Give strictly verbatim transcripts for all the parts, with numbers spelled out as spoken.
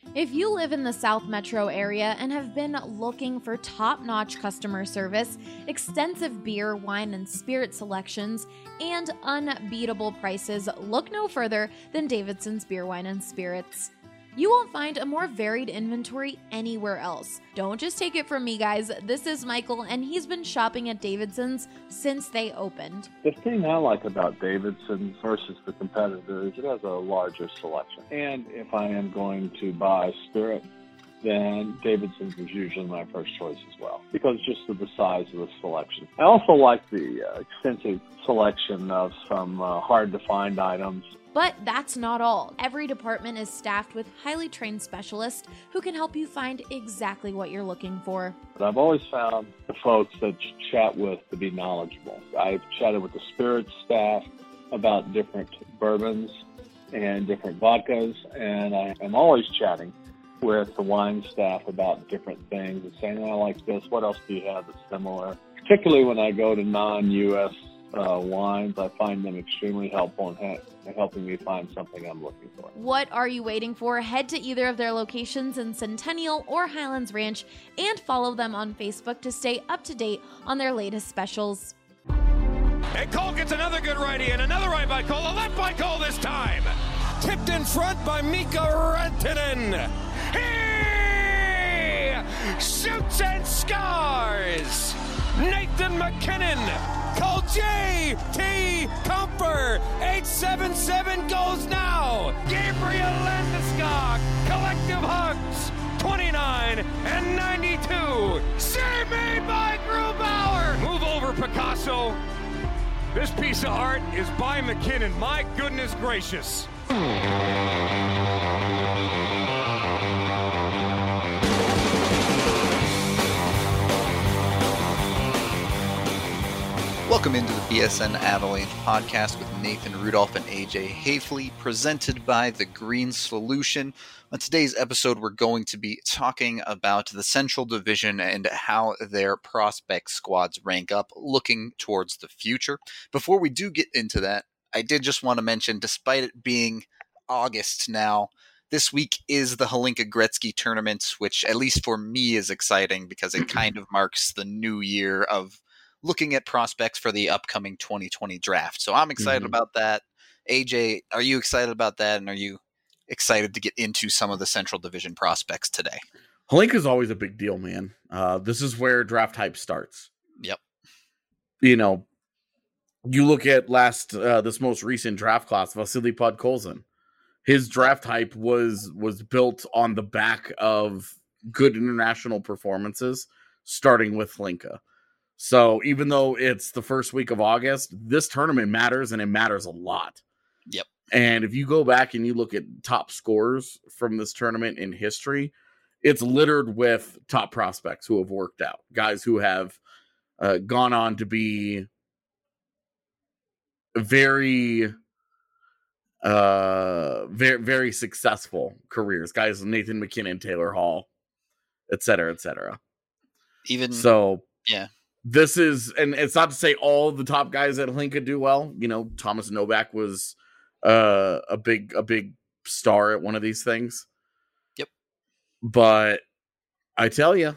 If you live in the South Metro area and have been looking for top-notch customer service, extensive beer, wine, and spirit selections, and unbeatable prices, look no further than Davidson's Beer, Wine, and Spirits. You won't find a more varied inventory anywhere else. Don't just take it from me, guys. This is Michael, and he's been shopping at Davidson's since they opened. The thing I like about Davidson's versus the competitor is it has a larger selection. And if I am going to buy spirit, then Davidson's is usually my first choice as well, because just of the size of the selection. I also like the uh, extensive selection of some uh, hard-to-find items. But that's not all. Every department is staffed with highly trained specialists who can help you find exactly what you're looking for. But I've always found the folks that you chat with to be knowledgeable. I've chatted with the spirits staff about different bourbons and different vodkas, and I am always chatting with the wine staff about different things and saying, oh, I like this, what else do you have that's similar? Particularly when I go to non-U S Uh, wines, I find them extremely helpful in, ha- in helping me find something I'm looking for. What are you waiting for? Head to either of their locations in Centennial or Highlands Ranch and follow them on Facebook to stay up to date on their latest specials. And Cole gets another good righty and another right by Cole, a left by Cole this time. Tipped in front by Mika Rantanen. He shoots and scores. Nathan MacKinnon. Call J T Comfer. eight seven seven goes now. Gabriel Landeskog. Collective hugs. twenty-nine and ninety-two. Save made by Grubauer. Move over, Picasso. This piece of art is by McKinnon. My goodness gracious. Welcome into the B S N Avalanche podcast with Nathan Rudolph and A J Hafley, presented by The Green Solution. On today's episode, we're going to be talking about the Central Division and how their prospect squads rank up, looking towards the future. Before we do get into that, I did just want to mention, despite it being August now, this week is the Hlinka Gretzky tournament, which at least for me is exciting because it kind of marks the new year of looking at prospects for the upcoming twenty twenty draft. So I'm excited mm-hmm. about that. A J, are you excited about that? And are you excited to get into some of the Central Division prospects today? Hlinka is always a big deal, man. Uh, this is where draft hype starts. Yep. You know, you look at last, uh, this most recent draft class, Vasily Podkolzin. His draft hype was, was built on the back of good international performances, starting with Hlinka. So even though it's the first week of August, this tournament matters, and it matters a lot. Yep. And if you go back and you look at top scores from this tournament in history, it's littered with top prospects who have worked out. Guys who have uh, gone on to be very, uh, very, very successful careers. Guys, Nathan MacKinnon, Taylor Hall, et cetera, et cetera. Even so, yeah. This is, and it's not to say all the top guys at Hlinka do well. You know, Thomas Novak was uh, a big, a big star at one of these things. Yep. But I tell you,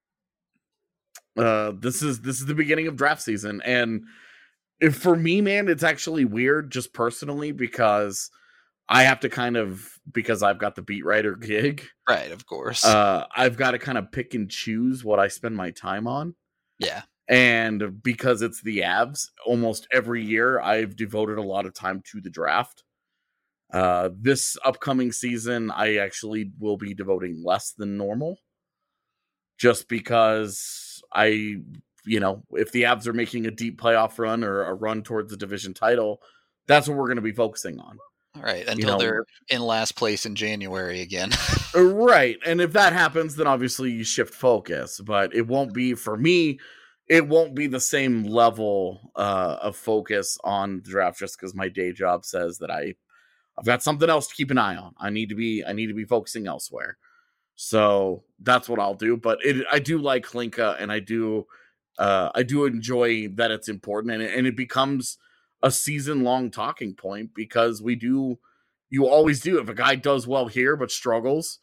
uh, this is this is the beginning of draft season, and if, for me, man, it's actually weird, just personally, because I have to kind of, because I've got the beat writer gig, right? Of course, uh, I've got to kind of pick and choose what I spend my time on. Yeah. And because it's the Avs, almost every year I've devoted a lot of time to the draft. Uh, this upcoming season, I actually will be devoting less than normal. Just because I, you know, if the Avs are making a deep playoff run or a run towards the division title, that's what we're going to be focusing on. All right, until you know, they're in last place in January again. Right, and if that happens, then obviously you shift focus. But it won't be, for me, it won't be the same level uh, of focus on the draft just because my day job says that I, I've got something else to keep an eye on. I need to be I need to be focusing elsewhere. So that's what I'll do. But it, I do like Hlinka, and I do uh, I do enjoy that it's important, and it, and it becomes a season long talking point because we do. You always do. If a guy does well here but struggles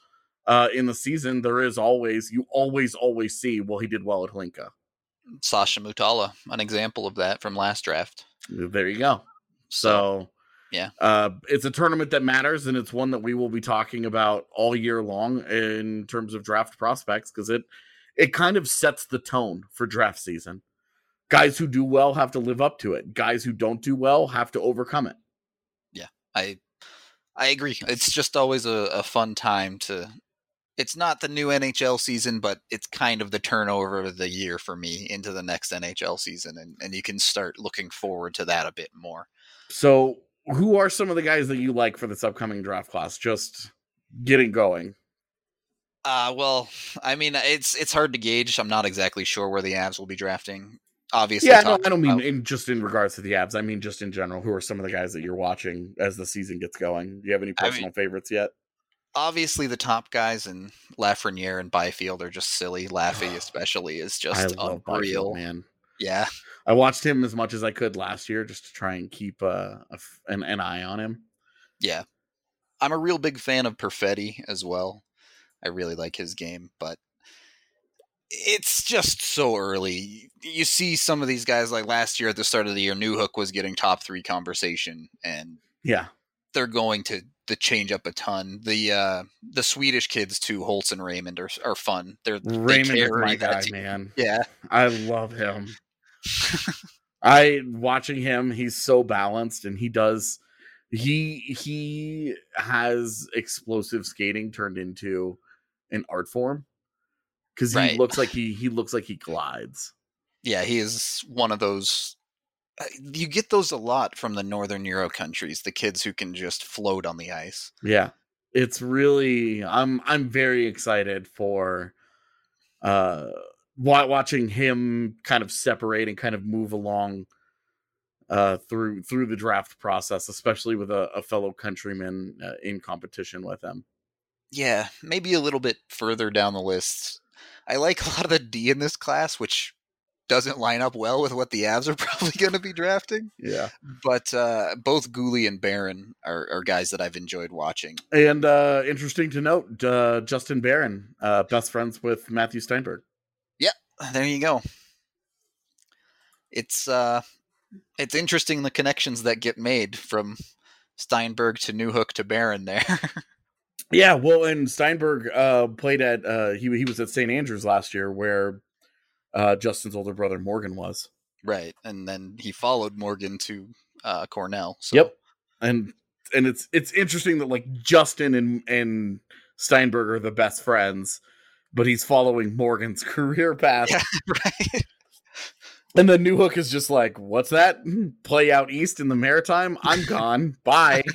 uh, in the season, there is always, you always, always see, well, he did well at Hlinka. Sasha Mutala, an example of that from last draft. There you go. So, So, yeah. uh, it's a tournament that matters, and it's one that we will be talking about all year long in terms of draft prospects, because it, it kind of sets the tone for draft season. Guys who do well have to live up to it. Guys who don't do well have to overcome it. Yeah, I I agree. It's just always a, a fun time to... It's not the new N H L season, but it's kind of the turnover of the year for me into the next N H L season, and, and you can start looking forward to that a bit more. So, who are some of the guys that you like for this upcoming draft class? Just getting going. Uh, well, I mean, it's it's hard to gauge. I'm not exactly sure where the Avs will be drafting. Obviously, Yeah, no, I don't mean about, in, just in regards to the Avs. I mean just in general. Who are some of the guys that you're watching as the season gets going? Do you have any personal I mean, favorites yet? Obviously, the top guys in Lafreniere and Byfield are just silly. Laffy, especially, is just I love unreal. Byfield, man. Yeah, I watched him as much as I could last year just to try and keep uh, a, an, an eye on him. yeah. I'm a real big fan of Perfetti as well. I really like his game, but it's just so early. You see some of these guys, like last year at the start of the year, Newhook was getting top three conversation, and Yeah. they're going to, to change up a ton. The uh, the Swedish kids too, Holtz and Raymond, are are fun. They're Raymond they is my that guy, team. man. Yeah, I love him. I watching him, he's so balanced, and he does he he has explosive skating turned into an art form. Because he Right. looks like he he looks like he glides. yeah. He is one of those. uh, You get those a lot from the Northern Euro countries. The kids who can just float on the ice. Yeah. It's really I'm I'm very excited for uh wa- watching him kind of separate and kind of move along uh through through the draft process, especially with a, a fellow countryman uh, in competition with him. Yeah, maybe a little bit further down the list. I like a lot of the D in this class, which doesn't line up well with what the Avs are probably going to be drafting. Yeah. But uh, both Gooley and Barron are, are guys that I've enjoyed watching. And uh interesting to note, uh Justin Barron, uh best friends with Matthew Steinberg. There you go. It's uh, it's interesting the connections that get made from Steinberg to Newhook to Barron there. Yeah, well, and Steinberg uh, played at uh, he he was at Saint Andrews last year, where uh, Justin's older brother Morgan was. Right, and then he followed Morgan to uh, Cornell. So. Yep, and and it's it's interesting that like Justin and and Steinberg are the best friends, but he's following Morgan's career path. Yeah, right. And then Newhook is just like, "What's that? Play out east in the Maritime? I'm gone. Bye."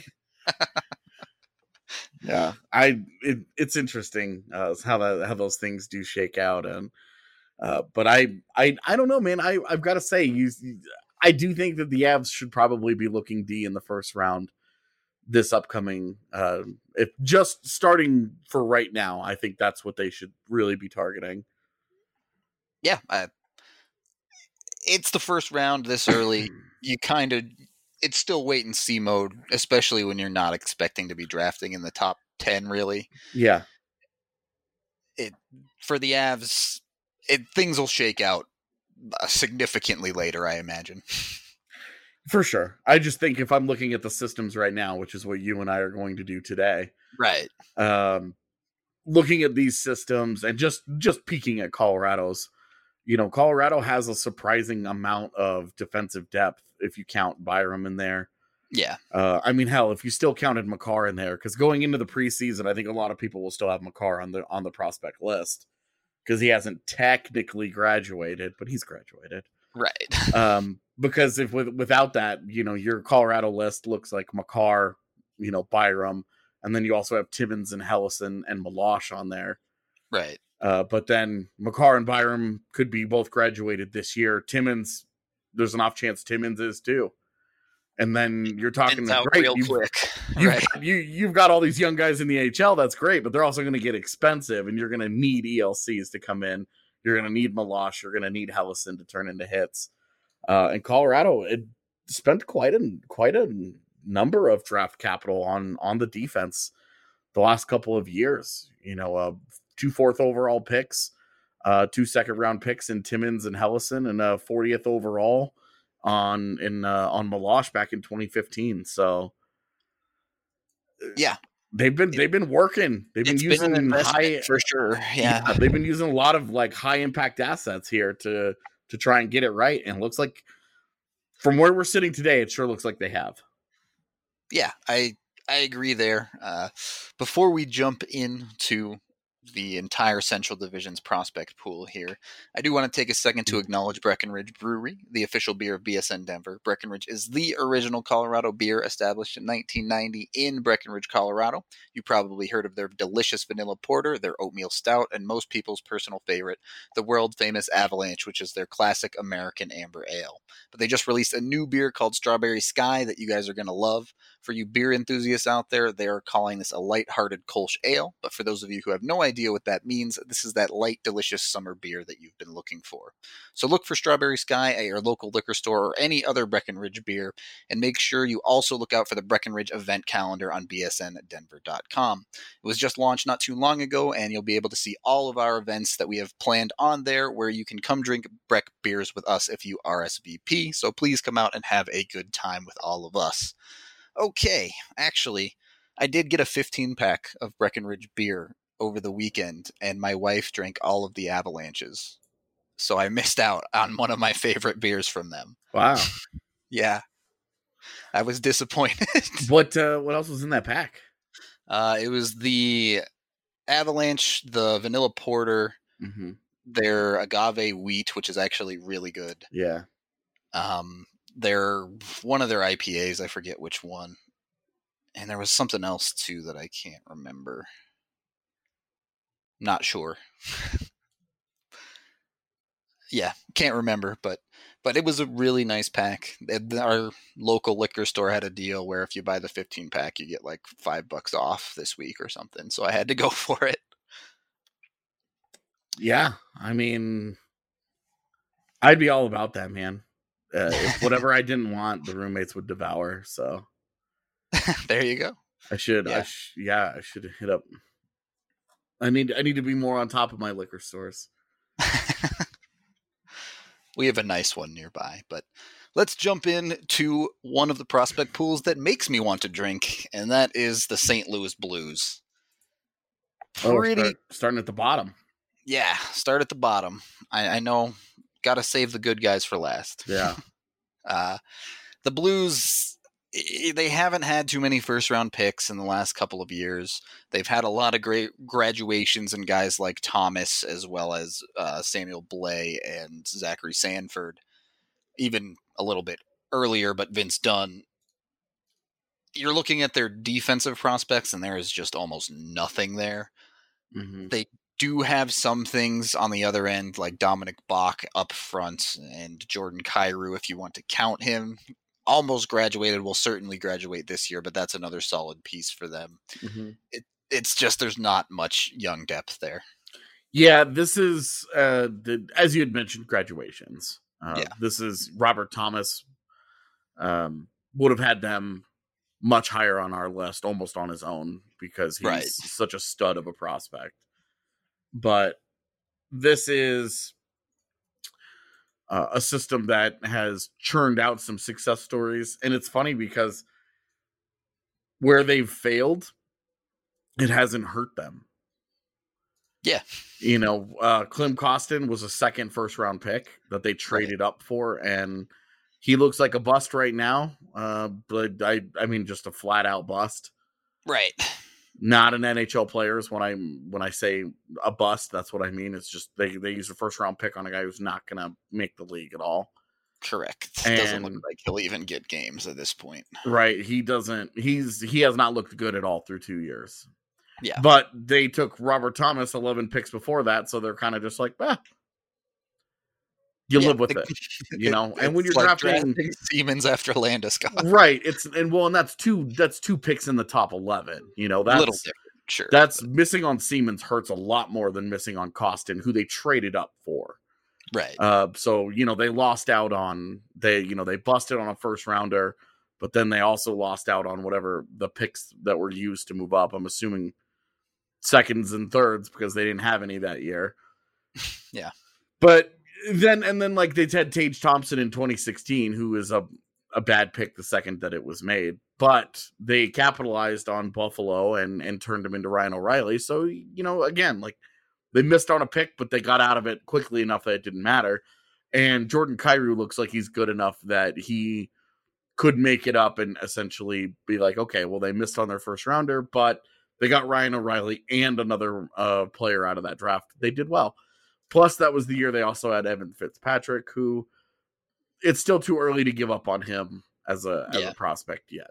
Yeah, I it, it's interesting uh, how that how those things do shake out, and uh, but I I I don't know, man. I I've got to say, you I do think that the Avs should probably be looking D in the first round this upcoming. Uh, if just starting for right now, I think that's what they should really be targeting. Yeah, I, it's the first round this early. You kind of. It's still wait and see mode, especially when you're not expecting to be drafting in the top ten, really. Yeah. It for the Avs, it things will shake out significantly later, I imagine. For sure. I just think if I'm looking at the systems right now, which is what you and I are going to do today, Right. um, looking at these systems and just just peeking at Colorado's, you know, Colorado has a surprising amount of defensive depth if you count Byram in there. Yeah. Uh, I mean, hell, if you still counted Makar in there, because going into the preseason, I think a lot of people will still have Makar on the on the prospect list because he hasn't technically graduated, but he's graduated. Right. Um, because if with, without that, you know, your Colorado list looks like Makar, you know, Byram, and then you also have Timmins and Hellison and Milosh on there. Right. Uh, but then Makar and Byram could be both graduated this year. Timmins, there's an off chance Timmins is too. And then you're talking Ends like, out great, real you've, quick. you've, Right. got, you, you've got all these young guys in the A H L. That's great, but they're also going to get expensive, and you're going to need E L Cs to come in. You're going to need Milosh. You're going to need Hellison to turn into hits. Uh, and Colorado it spent quite a quite a number of draft capital on on the defense the last couple of years. You know, uh, two fourth overall picks, uh, two second round picks in Timmins and Hellison, and a fortieth overall on in uh, on Milosh back in twenty fifteen. So yeah, they've been they've been working. They've been it's using been an high for sure. Yeah. yeah, they've been using a lot of like high impact assets here to to try and get it right. And it looks like from where we're sitting today, it sure looks like they have. Yeah, I I agree there. Uh, before we jump into the entire Central Division's prospect pool here, I do want to take a second to acknowledge Breckenridge Brewery, the official beer of B S N Denver. Breckenridge is the original Colorado beer established in nineteen ninety in Breckenridge, Colorado. You probably heard of their delicious vanilla porter, their oatmeal stout, and most people's personal favorite, the world-famous Avalanche, which is their classic American amber ale. But they just released a new beer called Strawberry Sky that you guys are going to love. For you beer enthusiasts out there, they are calling this a light-hearted Kolsch ale. But for those of you who have no idea what that means, this is that light, delicious summer beer that you've been looking for. So look for Strawberry Sky at your local liquor store or any other Breckenridge beer, and make sure you also look out for the Breckenridge event calendar on B S N denver dot com. It was just launched not too long ago, and you'll be able to see all of our events that we have planned on there, where you can come drink Breck beers with us if you R S V P. So please come out and have a good time with all of us. Okay, actually, I did get a fifteen pack of Breckenridge beer over the weekend, and my wife drank all of the Avalanches. So I missed out on one of my favorite beers from them. Wow. Yeah. I was disappointed. What uh, what else was in that pack? Uh, it was the Avalanche, the vanilla porter, Mm-hmm. their agave wheat, which is actually really good. Yeah. Um, their one of their I P As, I forget which one, and there was something else too that I can't remember. Not sure. Yeah, can't remember, but but it was a really nice pack. Our local liquor store had a deal where if you buy the fifteen pack, you get like five bucks off this week or something. So I had to go for it. Yeah, I mean, I'd be all about that, man. Uh, if whatever I didn't want, the roommates would devour. So there you go. I should, Yeah. I sh- yeah, I should hit up. I need, I need to be more on top of my liquor stores. We have a nice one nearby, but let's jump in to one of the prospect pools that makes me want to drink, and that is the Saint Louis Blues. Pretty, oh, start, starting at the bottom. Yeah, start at the bottom. I, I know, got to save the good guys for last. Yeah. uh, the Blues, they haven't had too many first-round picks in the last couple of years. They've had a lot of great graduations and guys like Thomas, as well as uh, Samuel Blais and Zachary Sanford, even a little bit earlier, but Vince Dunn. You're looking at their defensive prospects, and there is just almost nothing there. Mm-hmm. They do have some things on the other end, like Dominic Bach up front and Jordan Kyrou, if you want to count him. Almost graduated, will certainly graduate this year, but that's another solid piece for them. Mm-hmm. It, it's just there's not much young depth there. Yeah, this is, uh, the, as you had mentioned, graduations. Uh, Yeah. This is Robert Thomas um, would have had them much higher on our list, almost on his own, because he's Right. such a stud of a prospect. But this is uh, a system that has churned out some success stories. And it's funny because where they've failed, it hasn't hurt them. Yeah. You know, uh, Klim Kostin was a second first round pick that they traded right. up for, and he looks like a bust right now. Uh, but I, I mean, just a flat out bust. Right. Not an N H L player is when I when I say a bust. That's what I mean. It's just they they use a first round pick on a guy who's not going to make the league at all. Correct. And, doesn't look like he'll even get games at this point. Right. He doesn't. He's he has not looked good at all through two years. Yeah. But they took Robert Thomas eleven picks before that, so they're kind of just like, ah, you yeah, live with the, it, you know. It, and when you're like drafting, drafting Siemens after Landeskog, right? It's and well, and that's two that's two picks in the top eleven. You know, that's a little different. Sure, that's but. missing on Siemens hurts a lot more than missing on Kostin, who they traded up for. Right. Uh, so you know they lost out on they you know they busted on a first rounder, but then they also lost out on whatever the picks that were used to move up. I'm assuming seconds and thirds because they didn't have any that year. Yeah. But then, and then like they had Tage Thompson in twenty sixteen, who is a, a bad pick the second that it was made, but they capitalized on Buffalo and, and turned him into Ryan O'Reilly. So, you know, again, like they missed on a pick, but they got out of it quickly enough that it didn't matter. And Jordan Kyrou looks like he's good enough that he could make it up and essentially be like, okay, well, they missed on their first rounder, but they got Ryan O'Reilly and another uh, player out of that draft. They did well. Plus, that was the year they also had Evan Fitzpatrick, who it's still too early to give up on him as a, as yeah. a prospect yet.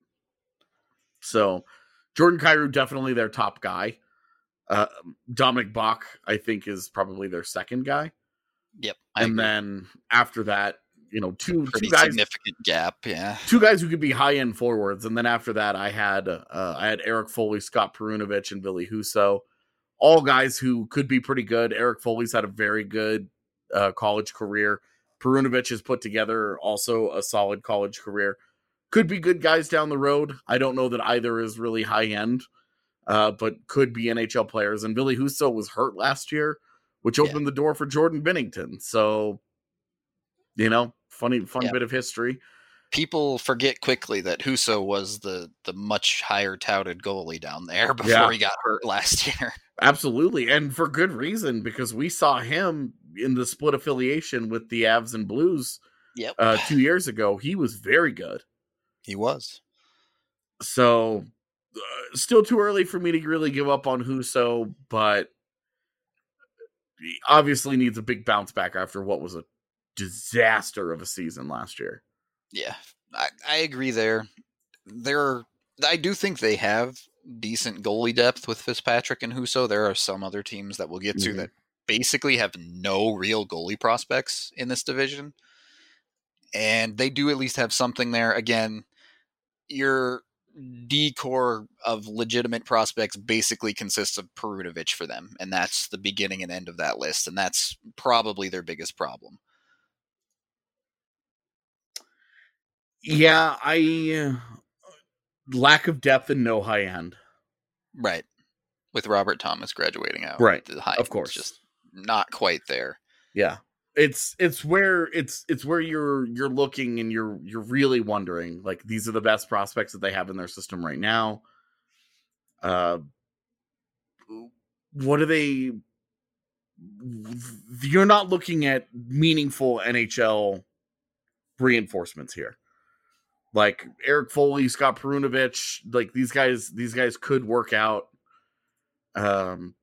So, Jordan Kyrou, definitely their top guy. Uh, Dominic Bach, I think, is probably their second guy. Yep. I and agree. Then after that, you know, two, Pretty two guys, significant gap. Yeah. two guys who could be high end forwards. And then after that, I had, uh, I had Eric Foley, Scott Perunovich, and Ville Husso. All guys who could be pretty good. Eric Foley's had a very good uh, college career. Perunovich has put together also a solid college career. Could be good guys down the road. I don't know that either is really high end, uh, but could be N H L players. And Ville Husso was hurt last year, which opened yeah. the door for Jordan Binnington. So, you know, funny, fun yeah. bit of history. People forget quickly that Husso was the, the much higher touted goalie down there before yeah. he got hurt last year. Absolutely. And for good reason, because we saw him in the split affiliation with the Avs and Blues yep. uh, two years ago. He was very good. He was. So uh, still too early for me to really give up on Husso, but he obviously needs a big bounce back after what was a disaster of a season last year. Yeah, I, I agree there. There, I do think they have decent goalie depth with Fitzpatrick and Husso. There are some other teams that we'll get to mm-hmm. that basically have no real goalie prospects in this division. And they do at least have something there. Again, your D-core of legitimate prospects basically consists of Perunovich for them. And that's the beginning and end of that list. And that's probably their biggest problem. Yeah, I uh, lack of depth and no high end. Right. With Robert Thomas graduating out. Right. The high of course. Just not quite there. Yeah. It's it's where it's it's where you're you're looking and you're you're really wondering, like, these are the best prospects that they have in their system right now. Uh what are they you're not looking at meaningful N H L reinforcements here. Like Eric Foley, Scott Perunovich, like these guys, these guys could work out, um,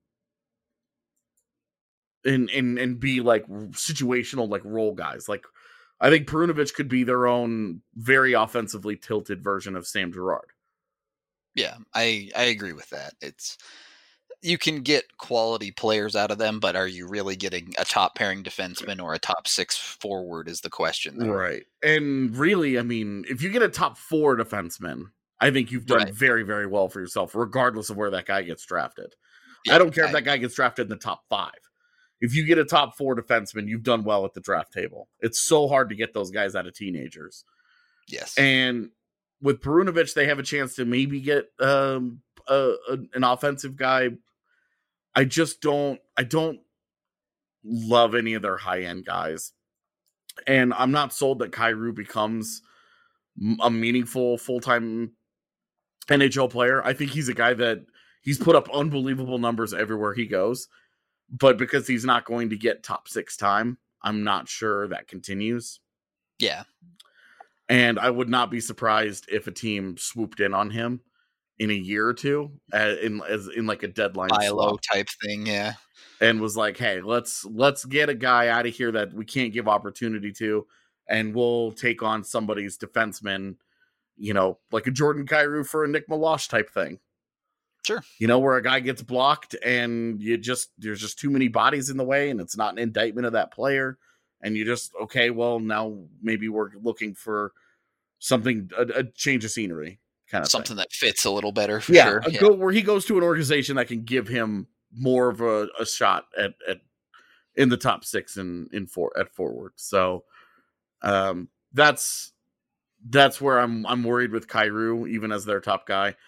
and and and be like situational, like role guys. Like I think Perunovich could be their own very offensively tilted version of Sam Girard. Yeah, I I agree with that. It's you can get quality players out of them, but are you really getting a top pairing defenseman or a top six forward is the question there. Right. And really, I mean, if you get a top four defenseman, I think you've done right. very, very well for yourself, regardless of where that guy gets drafted. Yeah, I don't care I, if that guy gets drafted in the top five. If you get a top four defenseman, you've done well at the draft table. It's so hard to get those guys out of teenagers. Yes. And with Perunovich, they have a chance to maybe get um, a, a, an offensive guy. I just don't, I don't love any of their high-end guys. And I'm not sold that Kyrou becomes a meaningful full-time N H L player. I think he's a guy that he's put up unbelievable numbers everywhere he goes. But because he's not going to get top six time, I'm not sure that continues. Yeah. And I would not be surprised if a team swooped in on him in a year or two, uh, in as in like a deadline Milo type thing, yeah, and was like, "Hey, let's let's get a guy out of here that we can't give opportunity to, and we'll take on somebody's defenseman, you know, like a Jordan Kyrou for a Nick Milosh type thing." Sure, you know, where a guy gets blocked and you just there's just too many bodies in the way, and it's not an indictment of that player, and you just okay, well now maybe we're looking for something a, a change of scenery. Kind of something thing. that fits a little better for yeah, sure. A yeah, go, where he goes to an organization that can give him more of a, a shot at, at in the top six in in for at forward. So um, that's that's where I'm I'm worried with Kyrou, even as their top guy.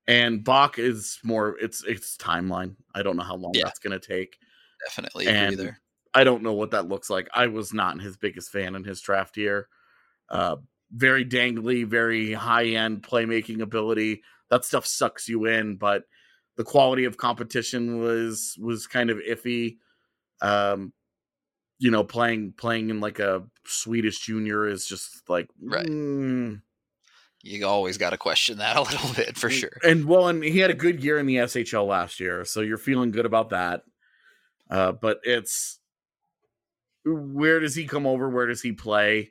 And Bach is more, it's it's timeline. I don't know how long Yeah. that's going to take. Definitely agree And there. I don't know what that looks like. I was not his biggest fan in his draft year. Uh, very dangly, very high-end playmaking ability. That stuff sucks you in, but the quality of competition was was kind of iffy. Um, you know, playing playing in like a Swedish junior is just like Right. mm. You always got to question that a little bit for sure. And well, and he had a good year in the S H L last year, so you're feeling good about that. Uh, but it's where does he come over? Where does he play?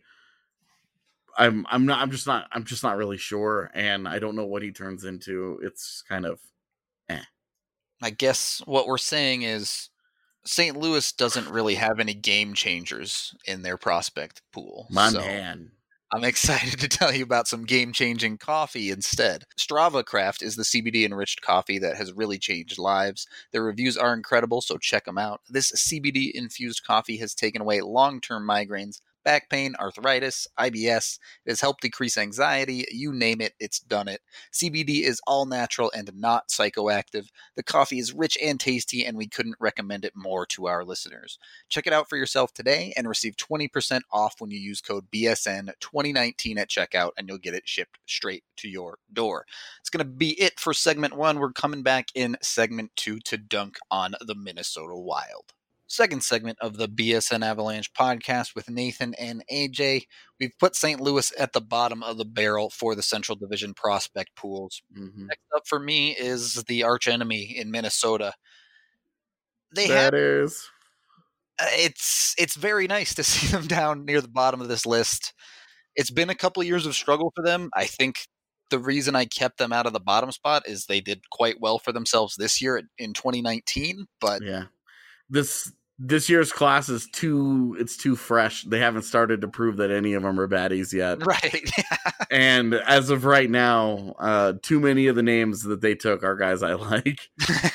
I'm I'm not I'm just not I'm just not really sure, and I don't know what he turns into. It's kind of eh. I guess what we're saying is Saint Louis doesn't really have any game changers in their prospect pool. My so man. I'm excited to tell you about some game-changing coffee instead. Strava Craft is the C B D-enriched coffee that has really changed lives. Their reviews are incredible, so check them out. This C B D-infused coffee has taken away long-term migraines, back pain, arthritis, I B S. It has helped decrease anxiety. You name it, it's done it. C B D is all natural and not psychoactive. The coffee is rich and tasty, and we couldn't recommend it more to our listeners. Check it out for yourself today and receive twenty percent off when you use code B S N twenty nineteen at checkout, and you'll get it shipped straight to your door. It's going to be it for segment one. We're coming back in segment two to dunk on the Minnesota Wild. Second segment of the B S N Avalanche podcast with Nathan and A J. We've put Saint Louis at the bottom of the barrel for the Central Division prospect pools. Mm-hmm. Next up for me is the archenemy in Minnesota. They That have is uh, it's it's very nice to see them down near the bottom of this list. It's been a couple years of struggle for them. I think the reason I kept them out of the bottom spot is they did quite well for themselves this year in twenty nineteen, but yeah. This this year's class is too it's too fresh. They haven't started to prove that any of them are baddies yet. right. And as of right now, uh, too many of the names that they took are guys I like.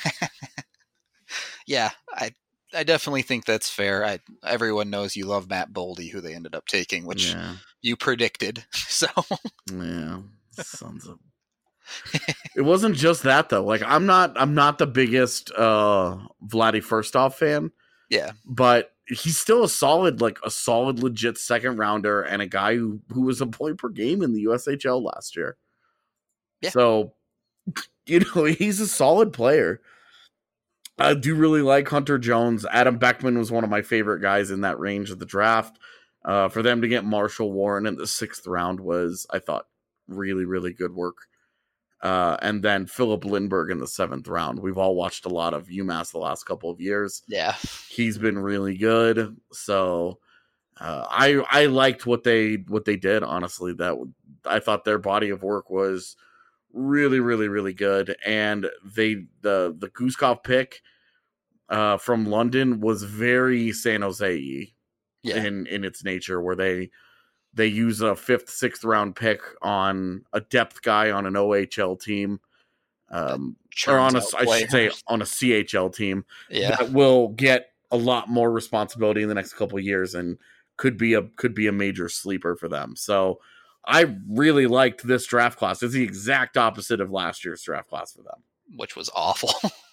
yeah, I I definitely think that's fair. I everyone knows you love Matt Boldy, who they ended up taking, which Yeah. you predicted. So Yeah. Sons of It wasn't just that though. Like I'm not I'm not the biggest uh Vladdy Firstov fan, yeah, but he's still a solid, like a solid legit second rounder and a guy who, who was a point per game in the U S H L last year. Yeah. So you know, he's a solid player. I do really like Hunter Jones. Adam Beckman was one of my favorite guys in that range of the draft. Uh, for them to get Marshall Warren in the sixth round was, I thought, really, really good work. Uh, and then Philip Lindbergh in the seventh round. We've all watched a lot of UMass the last couple of years. yeah, He's been really good. So uh, I I liked what they what they did. Honestly, that I thought their body of work was really, really, really good. And they the the Guskov pick uh, from London was very San Jose-y yeah. in in its nature, where they. They use a fifth, sixth round pick on a depth guy on an O H L team, um, or on a, I should say, on a C H L team yeah, that will get a lot more responsibility in the next couple of years and could be a could be a major sleeper for them. So I really liked this draft class. It's the exact opposite of last year's draft class for them, which was awful.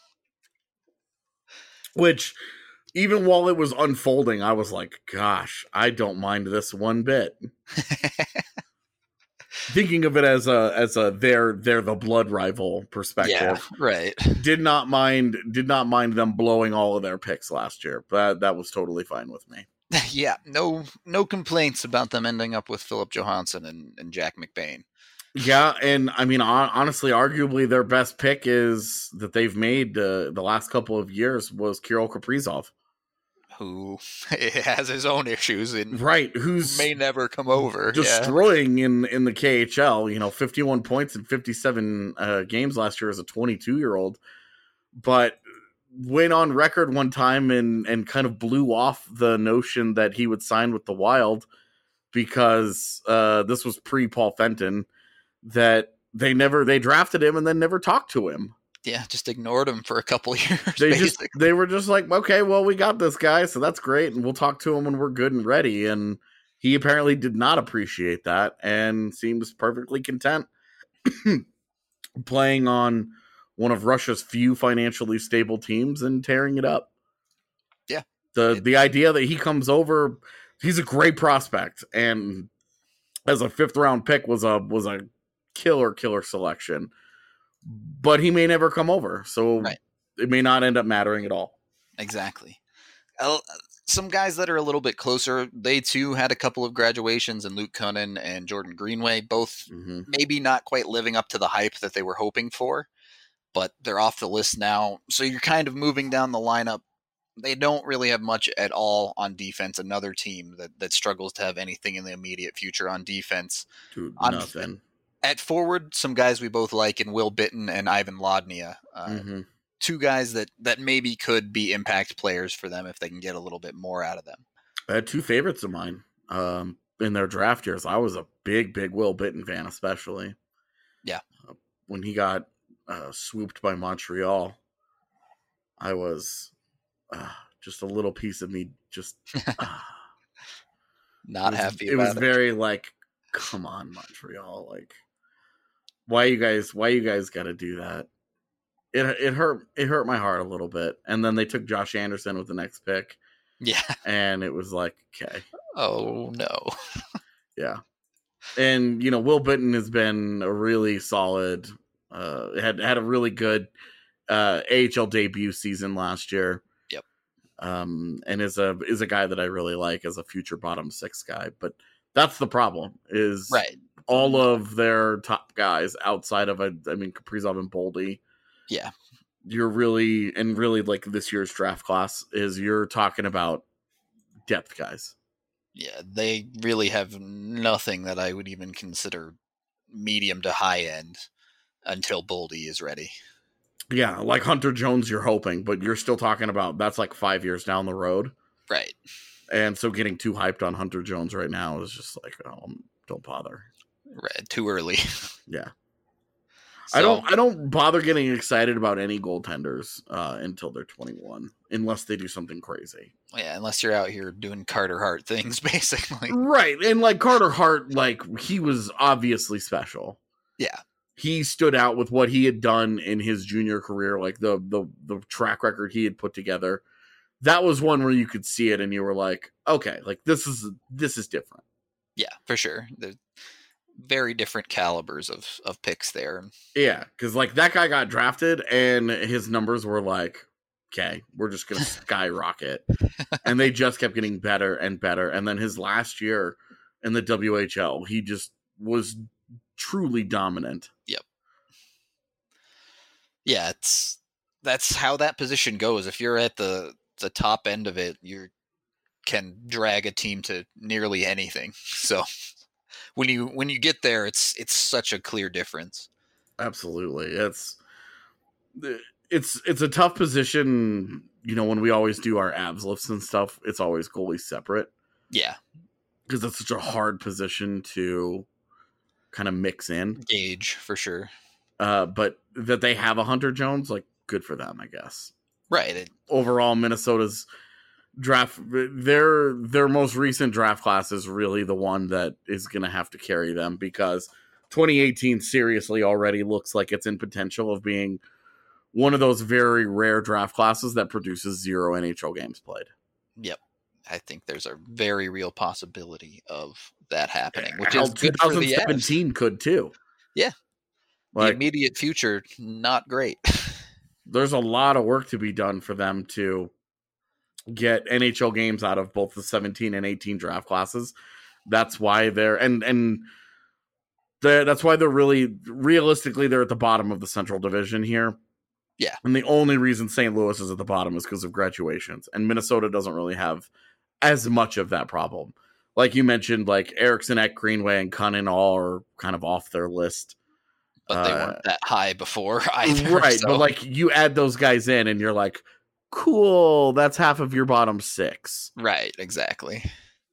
which. Even while it was unfolding, I was like, gosh, I don't mind this one bit. Thinking of it as a as a they're they're the blood rival perspective. Yeah, right. Did not mind did not mind them blowing all of their picks last year. But that was totally fine with me. Yeah, no no complaints about them ending up with Philip Johansson and, and Jack McBain. Yeah, and I mean, honestly, arguably their best pick is that they've made uh, the last couple of years was Kirill Kaprizov, who has his own issues and right? Who's may never come over, destroying yeah. in in the K H L. You know, fifty-one points in fifty-seven uh, games last year as a twenty-two year old, but went on record one time and and kind of blew off the notion that he would sign with the Wild because uh, this was pre Paul Fenton. That they never they drafted him and then never talked to him. Yeah, just ignored him for a couple of years. They basically. just they were just like, okay, well, we got this guy, so that's great, and we'll talk to him when we're good and ready. And he apparently did not appreciate that and seems perfectly content playing on one of Russia's few financially stable teams and tearing it up. Yeah. The It, the idea that he comes over, he's a great prospect, and as a fifth round pick was a was a killer killer selection. But he may never come over, so right. it may not end up mattering at all. Exactly. Uh, some guys that are a little bit closer, they too had a couple of graduations, and Luke Kunin and Jordan Greenway, both Mm-hmm. maybe not quite living up to the hype that they were hoping for, but they're off the list now. So you're kind of moving down the lineup. They don't really have much at all on defense. Another team that, that struggles to have anything in the immediate future on defense. Dude, on, nothing. At forward, some guys we both like in Will Bitton and Ivan Lodnia. Uh, Mm-hmm. Two guys that, that maybe could be impact players for them if they can get a little bit more out of them. I had two favorites of mine um, in their draft years. I was a big, big Will Bitton fan, especially. Yeah. Uh, when he got uh, swooped by Montreal, I was uh, just a little piece of me just uh, Not it was, happy it about was it. very like, come on, Montreal. Like, why you guys, why you guys got to do that? It it hurt it hurt my heart a little bit. And then they took Josh Anderson with the next pick. Yeah. And it was like, okay. Oh, no. Yeah. And, you know, Will Bitton has been a really solid, uh, had had a really good uh, A H L debut season last year. Yep. Um, and is a is a guy that I really like as a future bottom six guy. But that's the problem is Right. all of their top guys outside of, a, I mean, Kaprizov and Boldy. Yeah. You're really, and really like this year's draft class is you're talking about depth guys. Yeah, they really have nothing that I would even consider medium to high end until Boldy is ready. Yeah, like Hunter Jones, you're hoping, but you're still talking about that's like five years down the road. Right. And so getting too hyped on Hunter Jones right now is just like, oh, don't bother. Right. Too early. Yeah. So, I don't I don't bother getting excited about any goaltenders uh, until they're twenty-one, unless they do something crazy. Yeah, unless you're out here doing Carter Hart things, basically. Right. And like Carter Hart, like he was obviously special. Yeah. He stood out with what he had done in his junior career, like the the the track record he had put together. That was one where you could see it and you were like, okay, like this is this is different. Yeah, for sure. There's very different calibers of, of picks there. Yeah, because like that guy got drafted and his numbers were like, okay, we're just gonna skyrocket. And they just kept getting better and better. And then his last year in the W H L, he just was truly dominant. Yep. Yeah, it's that's how that position goes. If you're at the the top end of it, you can drag a team to nearly anything. So when you when you get there, it's it's such a clear difference. Absolutely. It's it's it's a tough position, you know, when we always do our abs lifts and stuff, it's always goalie separate. Yeah. Because it's such a hard position to kind of mix in. Gauge for sure. Uh, but that they have a Hunter Jones, like good for them, I guess. Right. It, Overall, Minnesota's draft, their their most recent draft class is really the one that is going to have to carry them because twenty eighteen seriously already looks like it's in potential of being one of those very rare draft classes that produces zero N H L games played. Yep. I think there's a very real possibility of that happening, which Hell, is good for the twenty seventeen could too. Yeah. Like, the immediate future, not great. There's a lot of work to be done for them to get N H L games out of both the seventeen and eighteen draft classes. That's why they're and and they're, that's why they're really realistically they're at the bottom of the Central Division here. Yeah. And the only reason Saint Louis is at the bottom is because of graduations. And Minnesota doesn't really have as much of that problem. Like you mentioned, like Eriksson, Ek, Greenway, and Kunin all are kind of off their list. But they Uh, weren't that high before either. Right. So. But like you add those guys in and you're like, cool, that's half of your bottom six. Right, exactly.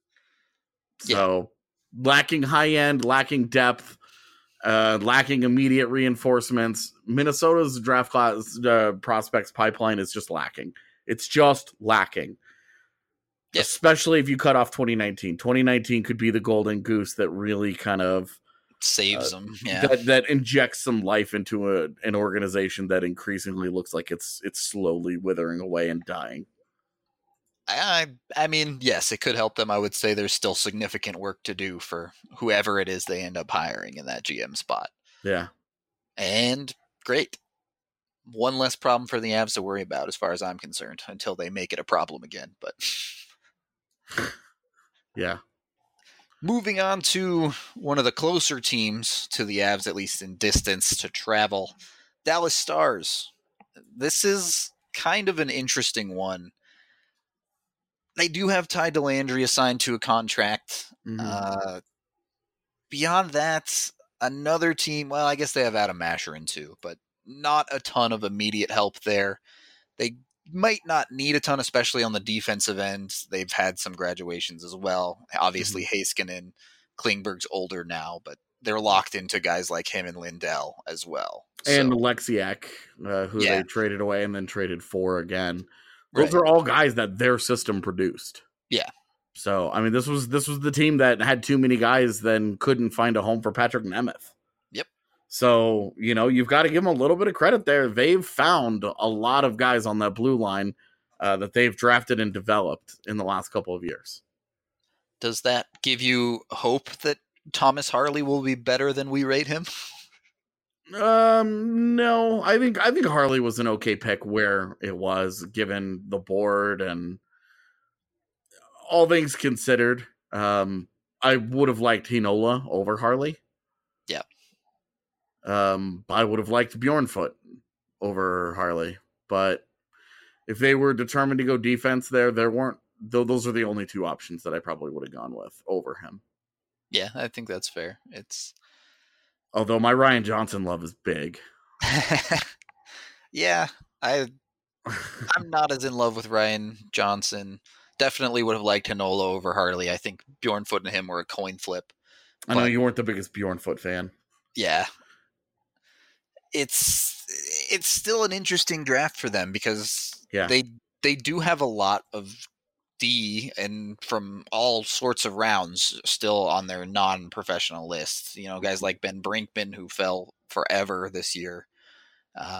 So lacking high end, lacking depth, uh, lacking immediate reinforcements. Minnesota's draft class uh, prospects pipeline is just lacking. It's just lacking. Yeah. Especially if you cut off twenty nineteen. twenty nineteen could be the golden goose that really kind of saves uh, them. Yeah, that that injects some life into a, an organization that increasingly looks like it's it's slowly withering away and dying. I I mean, yes, it could help them. I would say there's still significant work to do for whoever it is they end up hiring in that G M spot. Yeah. And great. One less problem for the Avs to worry about as far as I'm concerned until they make it a problem again. But yeah. Moving on to one of the closer teams to the Avs, at least in distance to travel, Dallas Stars. This is kind of an interesting one. They do have Ty Dellandrea assigned to a contract. Mm-hmm. Uh, beyond that, another team, well, I guess they have Adam Masherin too, but not a ton of immediate help there. They might not need a ton, especially on the defensive end. They've had some graduations as well. Obviously, mm-hmm. Heiskanen, Klingberg's older now, but they're locked into guys like him and Lindell as well. And so, Alexiak, uh, who yeah. they traded away and then traded for again. Those right. are all guys that their system produced. Yeah. So, I mean, this was this was the team that had too many guys, then couldn't find a home for Patrick Nemeth. Yep. So, you know, you've got to give them a little bit of credit there. They've found a lot of guys on that blue line uh, that they've drafted and developed in the last couple of years. Does that give you hope that Thomas Harley will be better than we rate him? Um, no, I think I think Harley was an okay pick where it was, given the board and all things considered. Um, I would have liked Heinola over Harley. Yeah. Um, I would have liked Bjornfoot over Harley, but if they were determined to go defense there, there weren't. Though those are the only two options that I probably would have gone with over him. Yeah, I think that's fair. It's. Although my Ryan Johnson love is big. yeah, I, I'm not as in love with Ryan Johnson. Definitely would have liked Heinola over Harley. I think Bjornfoot and him were a coin flip. I know you weren't the biggest Bjornfoot fan. Yeah. It's it's still an interesting draft for them because yeah. they they do have a lot of D and from all sorts of rounds still on their non-professional list. You know, guys like Ben Brinkman who fell forever this year. Uh,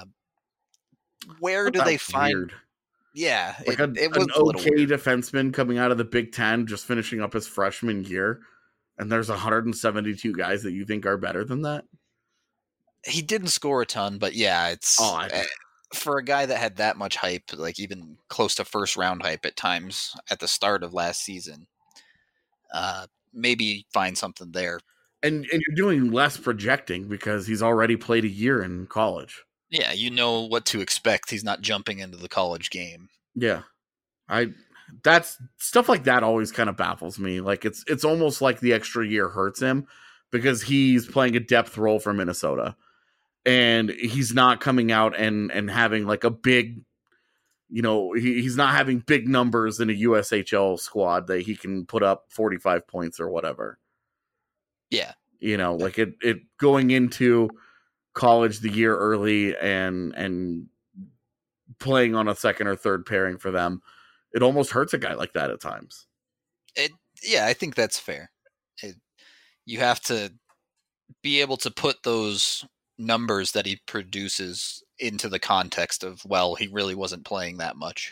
where do they find? Weird. Yeah, like it, a, it was an a okay weird. defenseman coming out of the Big Ten, just finishing up his freshman year, and there's one hundred seventy-two guys that you think are better than that. He didn't score a ton, but yeah, it's. Oh, I... uh, For a guy that had that much hype, like even close to first round hype at times at the start of last season, uh, maybe find something there. And and you're doing less projecting because he's already played a year in college. Yeah, you know what to expect. He's not jumping into the college game. Yeah, I that's stuff like that always kind of baffles me. Like it's it's almost like the extra year hurts him because he's playing a depth role for Minnesota. And he's not coming out and, and having like a big, you know, he, he's not having big numbers in a U S H L squad that he can put up forty-five points or whatever. Yeah. You know, like it, it going into college the year early and, and playing on a second or third pairing for them, it almost hurts a guy like that at times. It, yeah, I think that's fair. It, you have to be able to put those numbers that he produces into the context of, well, he really wasn't playing that much.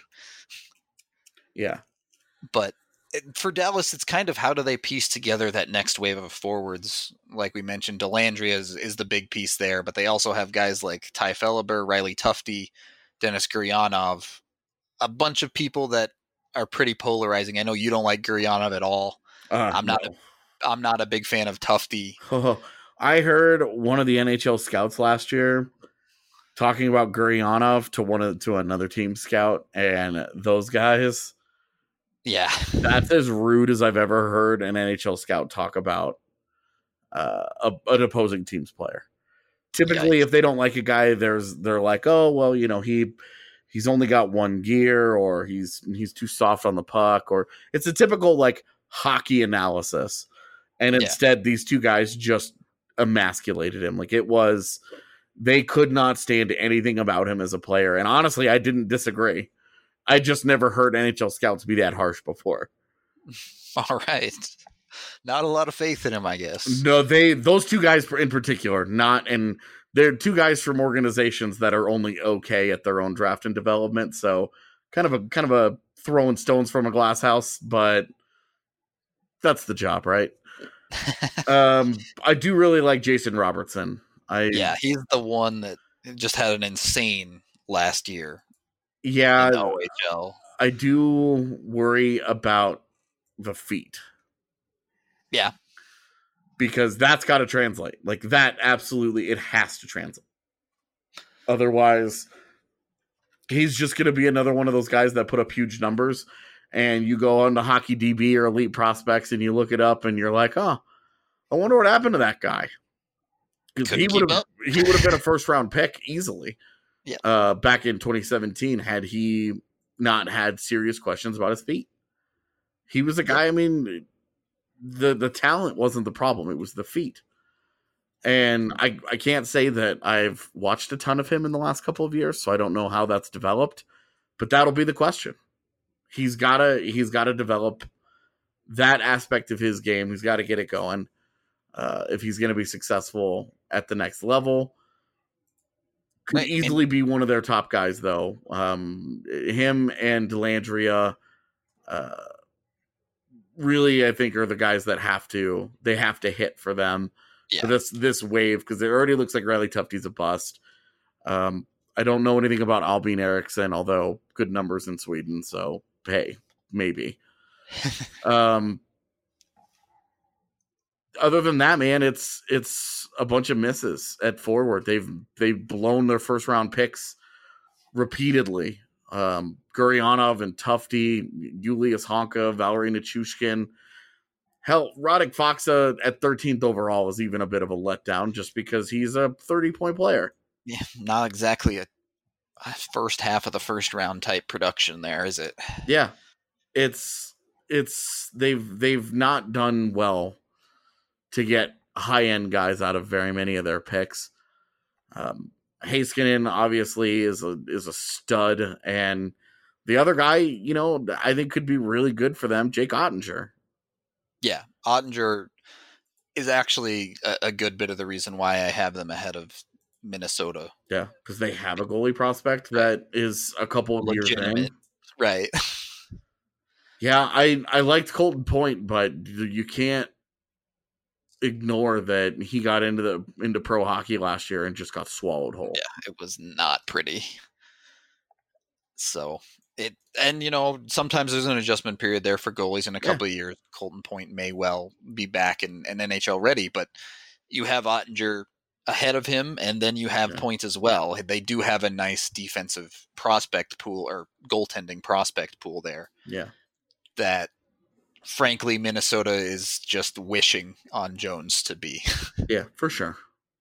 Yeah. But for Dallas, it's kind of how do they piece together that next wave of forwards? Like we mentioned, Dellandrea is, is the big piece there, but they also have guys like Ty Felleber, Riley Tufte, Denis Gurianov, a bunch of people that are pretty polarizing. I know you don't like Gurianov at all. Uh, I'm not no. a, I'm not a big fan of Tufte. Oh, I heard one of the N H L scouts last year talking about Gurianov to one of to another team scout, and those guys, yeah, that's as rude as I've ever heard an N H L scout talk about uh, a, an opposing team's player. Typically, yeah. if they don't like a guy, there's they're like, oh well, you know he he's only got one gear, or he's he's too soft on the puck, or it's a typical like hockey analysis, and instead yeah. these two guys just emasculated him. Like it was, they could not stand anything about him as a player. And honestly, I didn't disagree. I just never heard N H L scouts be that harsh before. All right. Not a lot of faith in him, I guess. No, they those two guys in particular, not and they're two guys from organizations that are only okay at their own draft and development. So kind of a kind of a throwing stones from a glass house, but that's the job, right? um, I do really like Jason Robertson. I yeah, he's the one that just had an insane last year. Yeah, in the O H L. I do worry about the feet. Yeah. Because that's got to translate. Like that, absolutely, it has to translate. Otherwise, he's just going to be another one of those guys that put up huge numbers, and you go on to Hockey D B or Elite Prospects, and you look it up, and you're like, oh, I wonder what happened to that guy. Because he would have he would have been a first round pick easily. Yeah. Uh, back in twenty seventeen, had he not had serious questions about his feet. He was a guy, I mean, the the talent wasn't the problem. It was the feet. And I, I can't say that I've watched a ton of him in the last couple of years, so I don't know how that's developed. But that'll be the question. He's gotta he's gotta develop that aspect of his game. He's got to get it going. Uh, if he's going to be successful at the next level. Could right. easily be one of their top guys, though. Um, him and Dellandrea, uh, really, I think, are the guys that have to they have to hit for them yeah. for this this wave, because it already looks like Riley Tufte's a bust. Um, I don't know anything about Albin Eriksson, although good numbers in Sweden, so hey, maybe. um, other than that, man, it's it's a bunch of misses at forward. They've they've blown their first round picks repeatedly. Um, Gurianov and Tufte, Julius Honka, Valerie Nichushkin. Hell, Radek Faksa at thirteenth overall is even a bit of a letdown, just because he's a thirty point player. Yeah, not exactly a, a first half of the first round type production there, is it? Yeah, it's it's they've they've not done well to get high-end guys out of very many of their picks. Um, Heiskanen obviously is a is a stud, and the other guy, you know, I think could be really good for them, Jake Ottinger. Yeah, Ottinger is actually a, a good bit of the reason why I have them ahead of Minnesota. Yeah, because they have a goalie prospect that is a couple of Legitimate. years in. Right. Yeah, I, I liked Colton Point, but you can't ignore that he got into the into pro hockey last year and just got swallowed whole. Yeah, it was not pretty. So it and you know sometimes there's an adjustment period there for goalies in a couple yeah. of years. Colton Point may well be back and, and N H L ready, but you have Ottinger ahead of him, and then you have yeah. Point as well. They do have a nice defensive prospect pool or goaltending prospect pool there. Yeah, that. Frankly, Minnesota is just wishing on Jones to be. Yeah, for sure.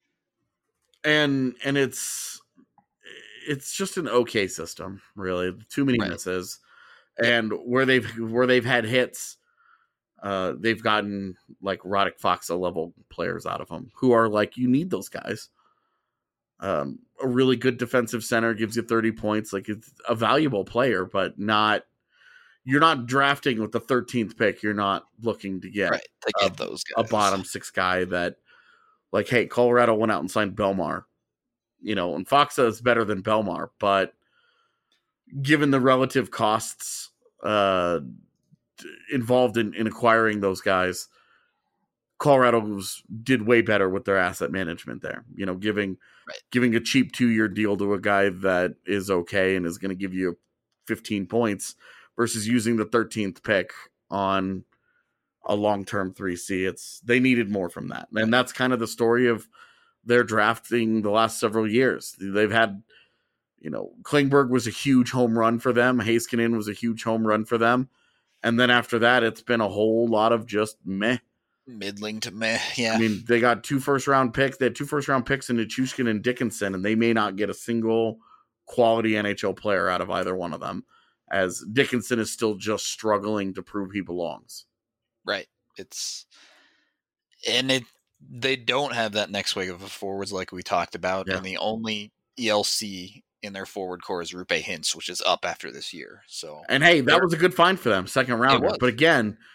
And and it's it's just an okay system, really. Too many right. misses, and where they've where they've had hits, uh, they've gotten like Radek Faksa level players out of them who are like, you need those guys. Um, a really good defensive center gives you thirty points. Like, it's a valuable player, but not. You're not drafting with the thirteenth pick. You're not looking to get, right, to get a, those guys. A bottom six guy that, like, hey, Colorado went out and signed Belmar. You know, and Faksa is better than Belmar, but given the relative costs uh, involved in, in acquiring those guys, Colorado was, did way better with their asset management there. You know, giving right. giving a cheap two-year deal to a guy that is okay and is going to give you fifteen points versus using the thirteenth pick on a long-term three C. It's they needed more from that. And that's kind of the story of their drafting the last several years. They've had, you know, Klingberg was a huge home run for them. Heiskanen was a huge home run for them. And then after that, it's been a whole lot of just meh. Middling to meh, yeah. I mean, they got two first-round picks. They had two first-round picks in Nichushkin and Dickinson, and they may not get a single quality N H L player out of either one of them, as Dickinson is still just struggling to prove he belongs. Right. It's and it they don't have that next wave of forwards like we talked about, yeah. and the only E L C in their forward core is Rupe Hintz, which is up after this year. So and hey, that was a good find for them, second rounder. But again,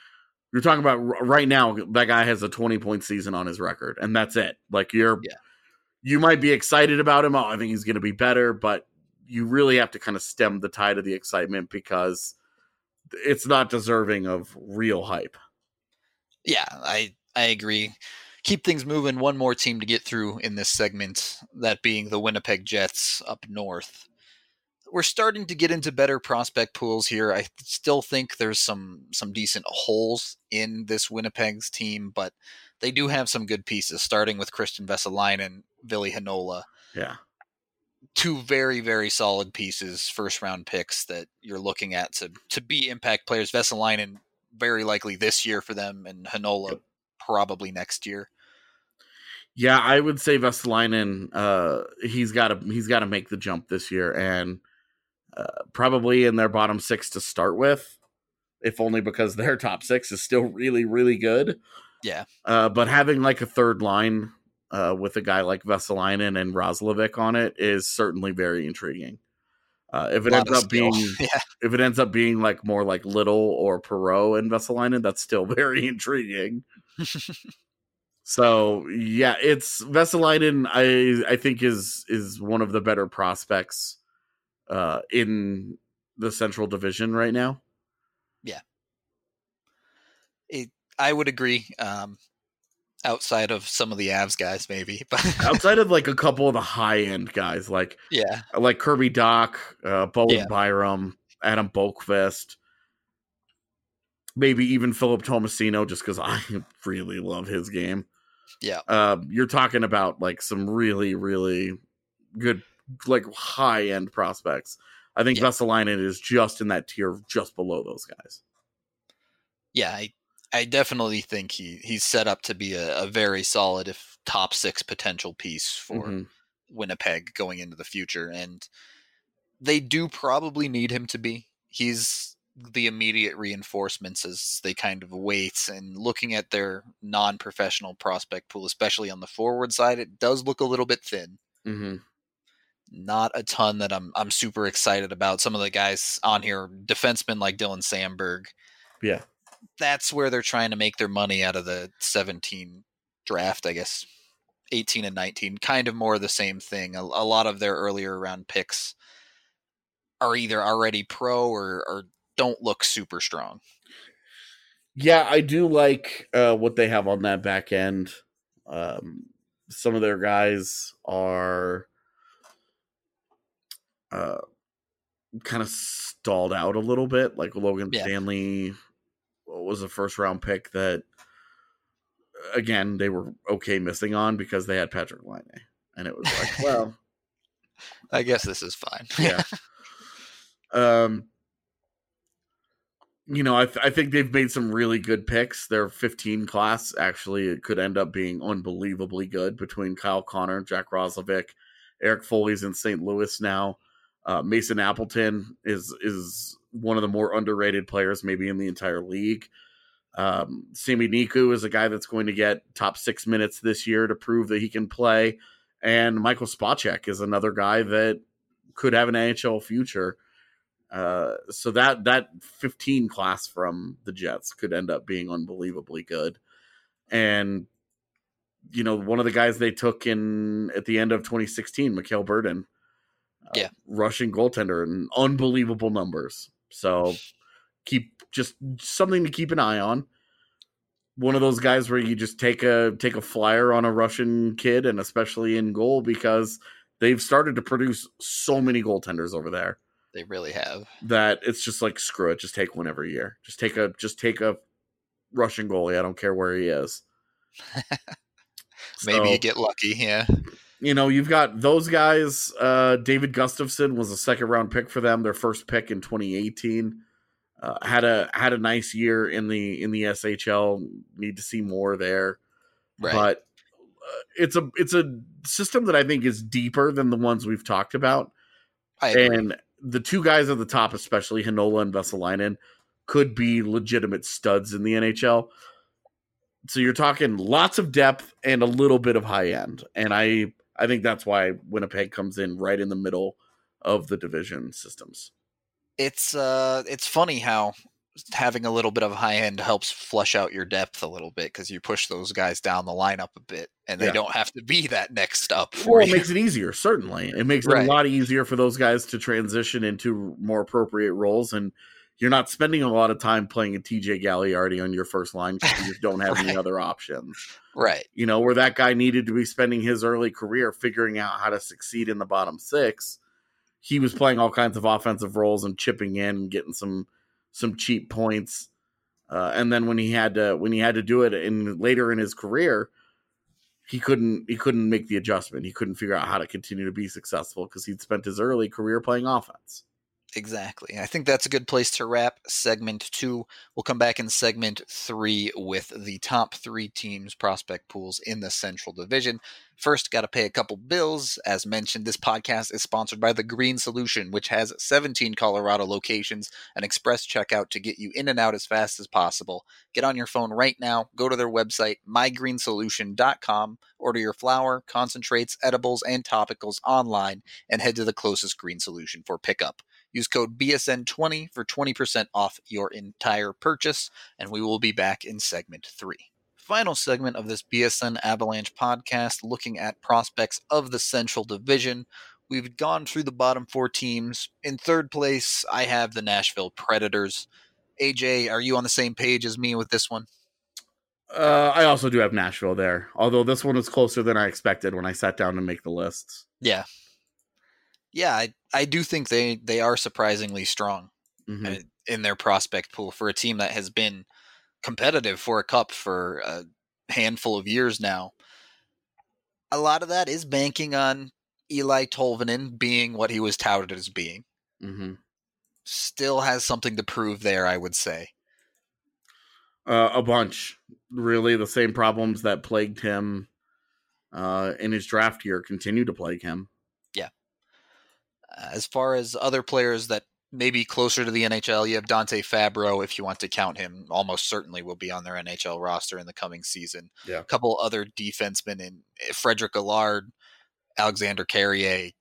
You're talking about right now, that guy has a twenty point season on his record, and that's it. Like you're, Yeah. you might be excited about him. Oh, I think he's going to be better, but you really have to kind of stem the tide of the excitement because it's not deserving of real hype. Yeah, I I agree. Keep things moving. One more team to get through in this segment, that being the Winnipeg Jets up north. We're starting to get into better prospect pools here. I still think there's some some decent holes in this Winnipeg's team, but they do have some good pieces, starting with Christian Vesalainen, Ville Heinola. Yeah. Two very, very solid pieces, first-round picks that you're looking at to, to be impact players. Vesalainen, very likely this year for them, and Heinola yep. probably next year. Yeah, I would say Vesalainen, uh, he's got to he's got to make the jump this year, and uh, probably in their bottom six to start with, if only because their top six is still really, really good. Yeah, uh, but having like a third line uh, with a guy like Vesalainen and Roslovic on it is certainly very intriguing. Uh, if it ends up skill. being, yeah. if it ends up being like more like Little or Perreault and Vesalainen, that's still very intriguing. So yeah, it's Vesalainen. I I think is is one of the better prospects uh, in the Central Division right now. Yeah, it, I would agree. Um, outside of some of the Avs guys, maybe, but outside of like a couple of the high end guys, like yeah, like Kirby Dach, uh, Bowen yeah. Byram, Adam Boqvist. Maybe even Philip Tomasino, just because I really love his game. Yeah. Uh, you're talking about like some really, really good, like high end prospects. I think yeah. Vesalainen is just in that tier just below those guys. Yeah, I, I definitely think he, he's set up to be a, a very solid, if top six potential piece for mm-hmm. Winnipeg going into the future. And they do probably need him to be. He's the immediate reinforcements as they kind of wait, and looking at their non-professional prospect pool, especially on the forward side, it does look a little bit thin. Mm-hmm. Not a ton that I'm I'm super excited about. Some of the guys on here, defensemen like Dylan Sandberg. Yeah. That's where they're trying to make their money out of the seventeen draft, I guess. eighteen and nineteen, kind of more of the same thing. A, a lot of their earlier round picks are either already pro or, or don't look super strong. Yeah, I do like uh, what they have on that back end. Um, some of their guys are uh, kind of stalled out a little bit, like Logan yeah. Stanley was a first round pick that, again, they were okay missing on because they had Patrick Laine. And it was like, well, I guess this is fine. Yeah. um, You know, I, th- I think they've made some really good picks. Their fifteen class, actually, it could end up being unbelievably good between Kyle Connor, Jack Roslovic, Eric Foley's in Saint Louis now. Uh, Mason Appleton is is one of the more underrated players maybe in the entire league. Um, Sami Niku is a guy that's going to get top six minutes this year to prove that he can play. And Michael Spacek is another guy that could have an N H L future. Uh, so that that fifteen class from the Jets could end up being unbelievably good. And, you know, one of the guys they took in at the end of twenty sixteen, Mikhail Burden, uh, yeah, Russian goaltender, and unbelievable numbers. So keep just something to keep an eye on. One of those guys where you just take a take a flyer on a Russian kid, and especially in goal, because they've started to produce so many goaltenders over there. They really have. That it's just like, screw it, just take one every year. Just take a just take a Russian goalie. I don't care where he is. Maybe so, you get lucky, yeah. You know, you've got those guys. Uh, David Gustafsson was a second round pick for them, their first pick in twenty eighteen. Uh, had a had a nice year in the in the S H L. Need to see more there, right. But uh, it's a it's a system that I think is deeper than the ones we've talked about. I agree. And the two guys at the top, especially Heinola and Vesalainen, could be legitimate studs in the N H L. So you're talking lots of depth and a little bit of high end, and I I think that's why Winnipeg comes in right in the middle of the division systems. It's uh, it's funny how having a little bit of high end helps flush out your depth a little bit because you push those guys down the lineup a bit, and they Yeah. don't have to be that next up for Well, it you. makes it easier. Certainly, it makes it Right. a lot easier for those guys to transition into more appropriate roles, and you're not spending a lot of time playing a T J Galliardi on your first line because you just don't have any Right. other options. Right. You know, where that guy needed to be spending his early career figuring out how to succeed in the bottom six, he was playing all kinds of offensive roles and chipping in and getting some some cheap points. Uh, and then when he had to when he had to do it in later in his career, he couldn't he couldn't make the adjustment. He couldn't figure out how to continue to be successful because he'd spent his early career playing offense. Exactly. I think that's a good place to wrap segment two. We'll come back in segment three with the top three teams' prospect pools in the Central Division. First, got to pay a couple bills. As mentioned, this podcast is sponsored by The Green Solution, which has seventeen Colorado locations, an express checkout to get you in and out as fast as possible. Get on your phone right now, go to their website, my green solution dot com, order your flour, concentrates, edibles, and topicals online, and head to the closest Green Solution for pickup. Use code B S N twenty for twenty percent off your entire purchase, and we will be back in segment three. Final segment of this B S N Avalanche podcast, looking at prospects of the Central Division. We've gone through the bottom four teams. In third place, I have the Nashville Predators. A J, are you on the same page as me with this one? Uh, I also do have Nashville there, although this one was closer than I expected when I sat down to make the lists. Yeah. Yeah, I, I do think they, they are surprisingly strong Mhm. uh, in their prospect pool for a team that has been competitive for a cup for a handful of years now. A lot of that is banking on Eli Tolvanen being what he was touted as being. Mm-hmm. Still has something to prove there, I would say. Uh, a bunch. Really, the same problems that plagued him uh, in his draft year continue to plague him. As far as other players that may be closer to the N H L, you have Dante Fabro, if you want to count him, almost certainly will be on their N H L roster in the coming season. Yeah. A couple other defensemen in Frederick Allard, Alexander Carrier.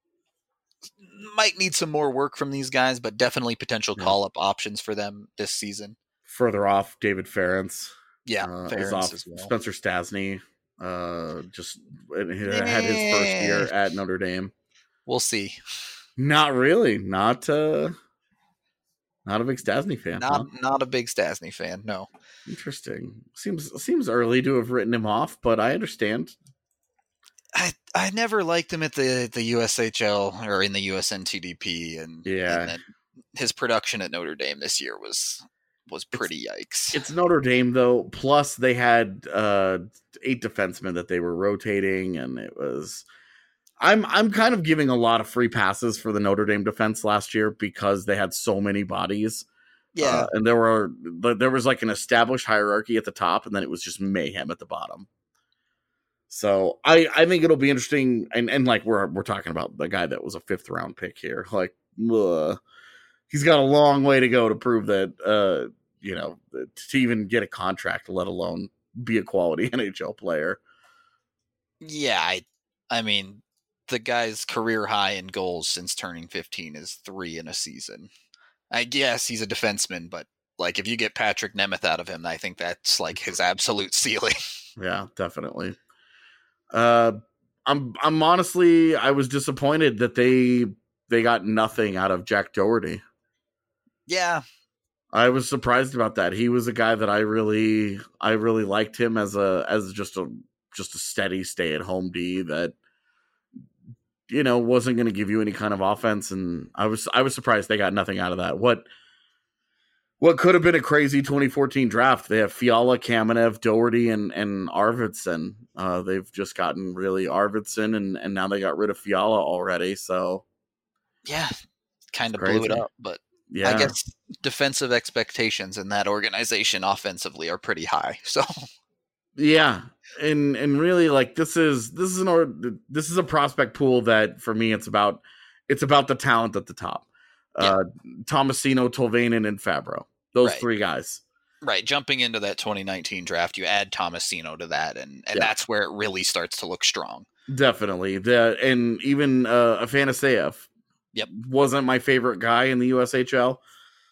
Might need some more work from these guys, but definitely potential Yeah. call-up options for them this season. Further off, David Ferentz. Yeah, uh, is Ferentz off. as well. Spencer Stasny uh, just had his first year at Notre Dame. We'll see. Not really. Not uh, not a big Stasny fan. Not huh? not a big Stasny fan, no. Interesting. Seems seems early to have written him off, but I understand. I I never liked him at the, the U S H L or in the U S N T D P, and, Yeah. and then his production at Notre Dame this year was was pretty yikes. It's Notre Dame though. Plus, they had uh, eight defensemen that they were rotating, and it was. I'm I'm kind of giving a lot of free passes for the Notre Dame defense last year because they had so many bodies. Yeah, Uh, and there were there was like an established hierarchy at the top, and then it was just mayhem at the bottom. So I, I think it'll be interesting, and, and like we're we're talking about the guy that was a fifth round pick here. Like, ugh, he's got a long way to go to prove that uh you know to even get a contract, let alone be a quality N H L player. yeah. I I mean, the guy's career high in goals since turning fifteen is three in a season. I guess he's a defenseman, but like if you get Patrick Nemeth out of him, I think that's like his absolute ceiling. Yeah, definitely. Uh, I'm I'm honestly I was disappointed that they they got nothing out of Jack Doherty. Yeah, I was surprised about that. He was a guy that I really I really liked him as a as just a just a steady stay at home D that you know wasn't going to give you any kind of offense, and I was I was surprised they got nothing out of that. What what could have been a crazy twenty fourteen draft? They have Fiala, Kamenev, Doherty, and and Arvidsson. Uh, they've just gotten really Arvidsson, and and now they got rid of Fiala already. So yeah, kind of Crazy. blew it up, but yeah, I guess defensive expectations in that organization offensively are pretty high. So yeah, and and really like this is this is an or this is a prospect pool that for me it's about it's about the talent at the top. Yeah. Uh, Tomasino, Tolvanen, and Fabro. Those Right. three guys. right, jumping into that twenty nineteen draft, you add Tomasino to that, and, and Yeah. that's where it really starts to look strong. Definitely. The and even uh Afanaseyev Yep. wasn't my favorite guy in the U S H L.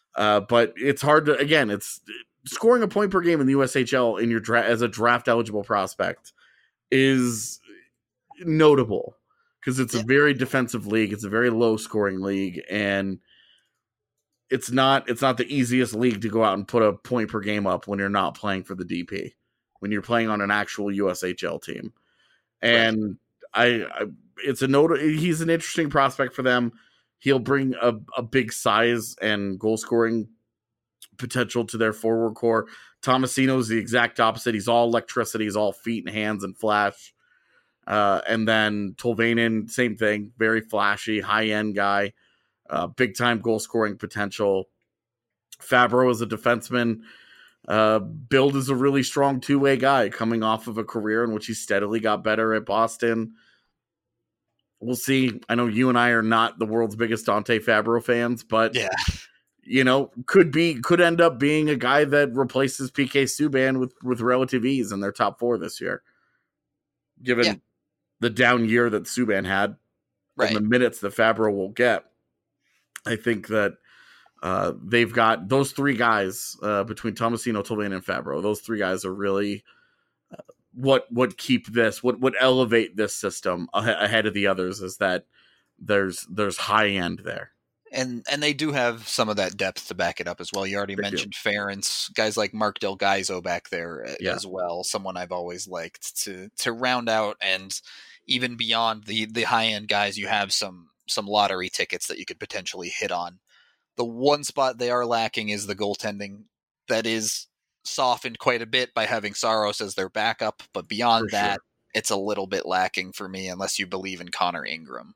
Uh, but it's hard to, again, it's scoring a point per game in the U S H L in your dra- as a draft eligible prospect is notable because it's yeah. a very defensive league. It's a very low scoring league, and it's not it's not the easiest league to go out and put a point per game up when you're not playing for the D P, when you're playing on an actual U S H L team. And right. I, I, it's a note. He's an interesting prospect for them. He'll bring a, a big size and goal scoring potential to their forward core. Tomasino is the exact opposite. He's all electricity. He's all feet and hands and flash. Uh, and then Tolvanen, same thing. Very flashy, high-end guy. Uh, big-time goal-scoring potential. Fabro is a defenseman. Uh, Build is a really strong two-way guy coming off of a career in which he steadily got better at Boston. We'll see. I know you and I are not the world's biggest Dante Fabro fans, but yeah. you know, could be could end up being a guy that replaces P K Subban with, with relative ease in their top four this year. Given yeah. the down year that Subban had, right. and the minutes that Fabro will get, I think that uh, they've got those three guys uh, between Tomasino, Tolvanen, and Fabro. Those three guys are really uh, what what keep this, what would elevate this system a- ahead of the others. Is that there's there's high end there. And and they do have some of that depth to back it up as well. You already they mentioned do. Ference, guys like Mark Del Gaizo back there yeah. as well. Someone I've always liked to to round out, and even beyond the the high end guys, you have some some lottery tickets that you could potentially hit on. The one spot they are lacking is the goaltending. That is softened quite a bit by having Saros as their backup, but beyond for that, sure. it's a little bit lacking for me unless you believe in Connor Ingram.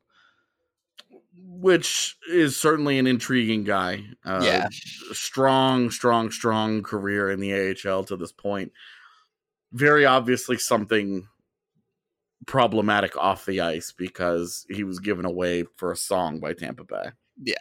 Which is certainly an intriguing guy. Uh, yeah. Strong, strong, strong career in the A H L to this point. Very obviously something problematic off the ice because he was given away for a song by Tampa Bay. Yeah.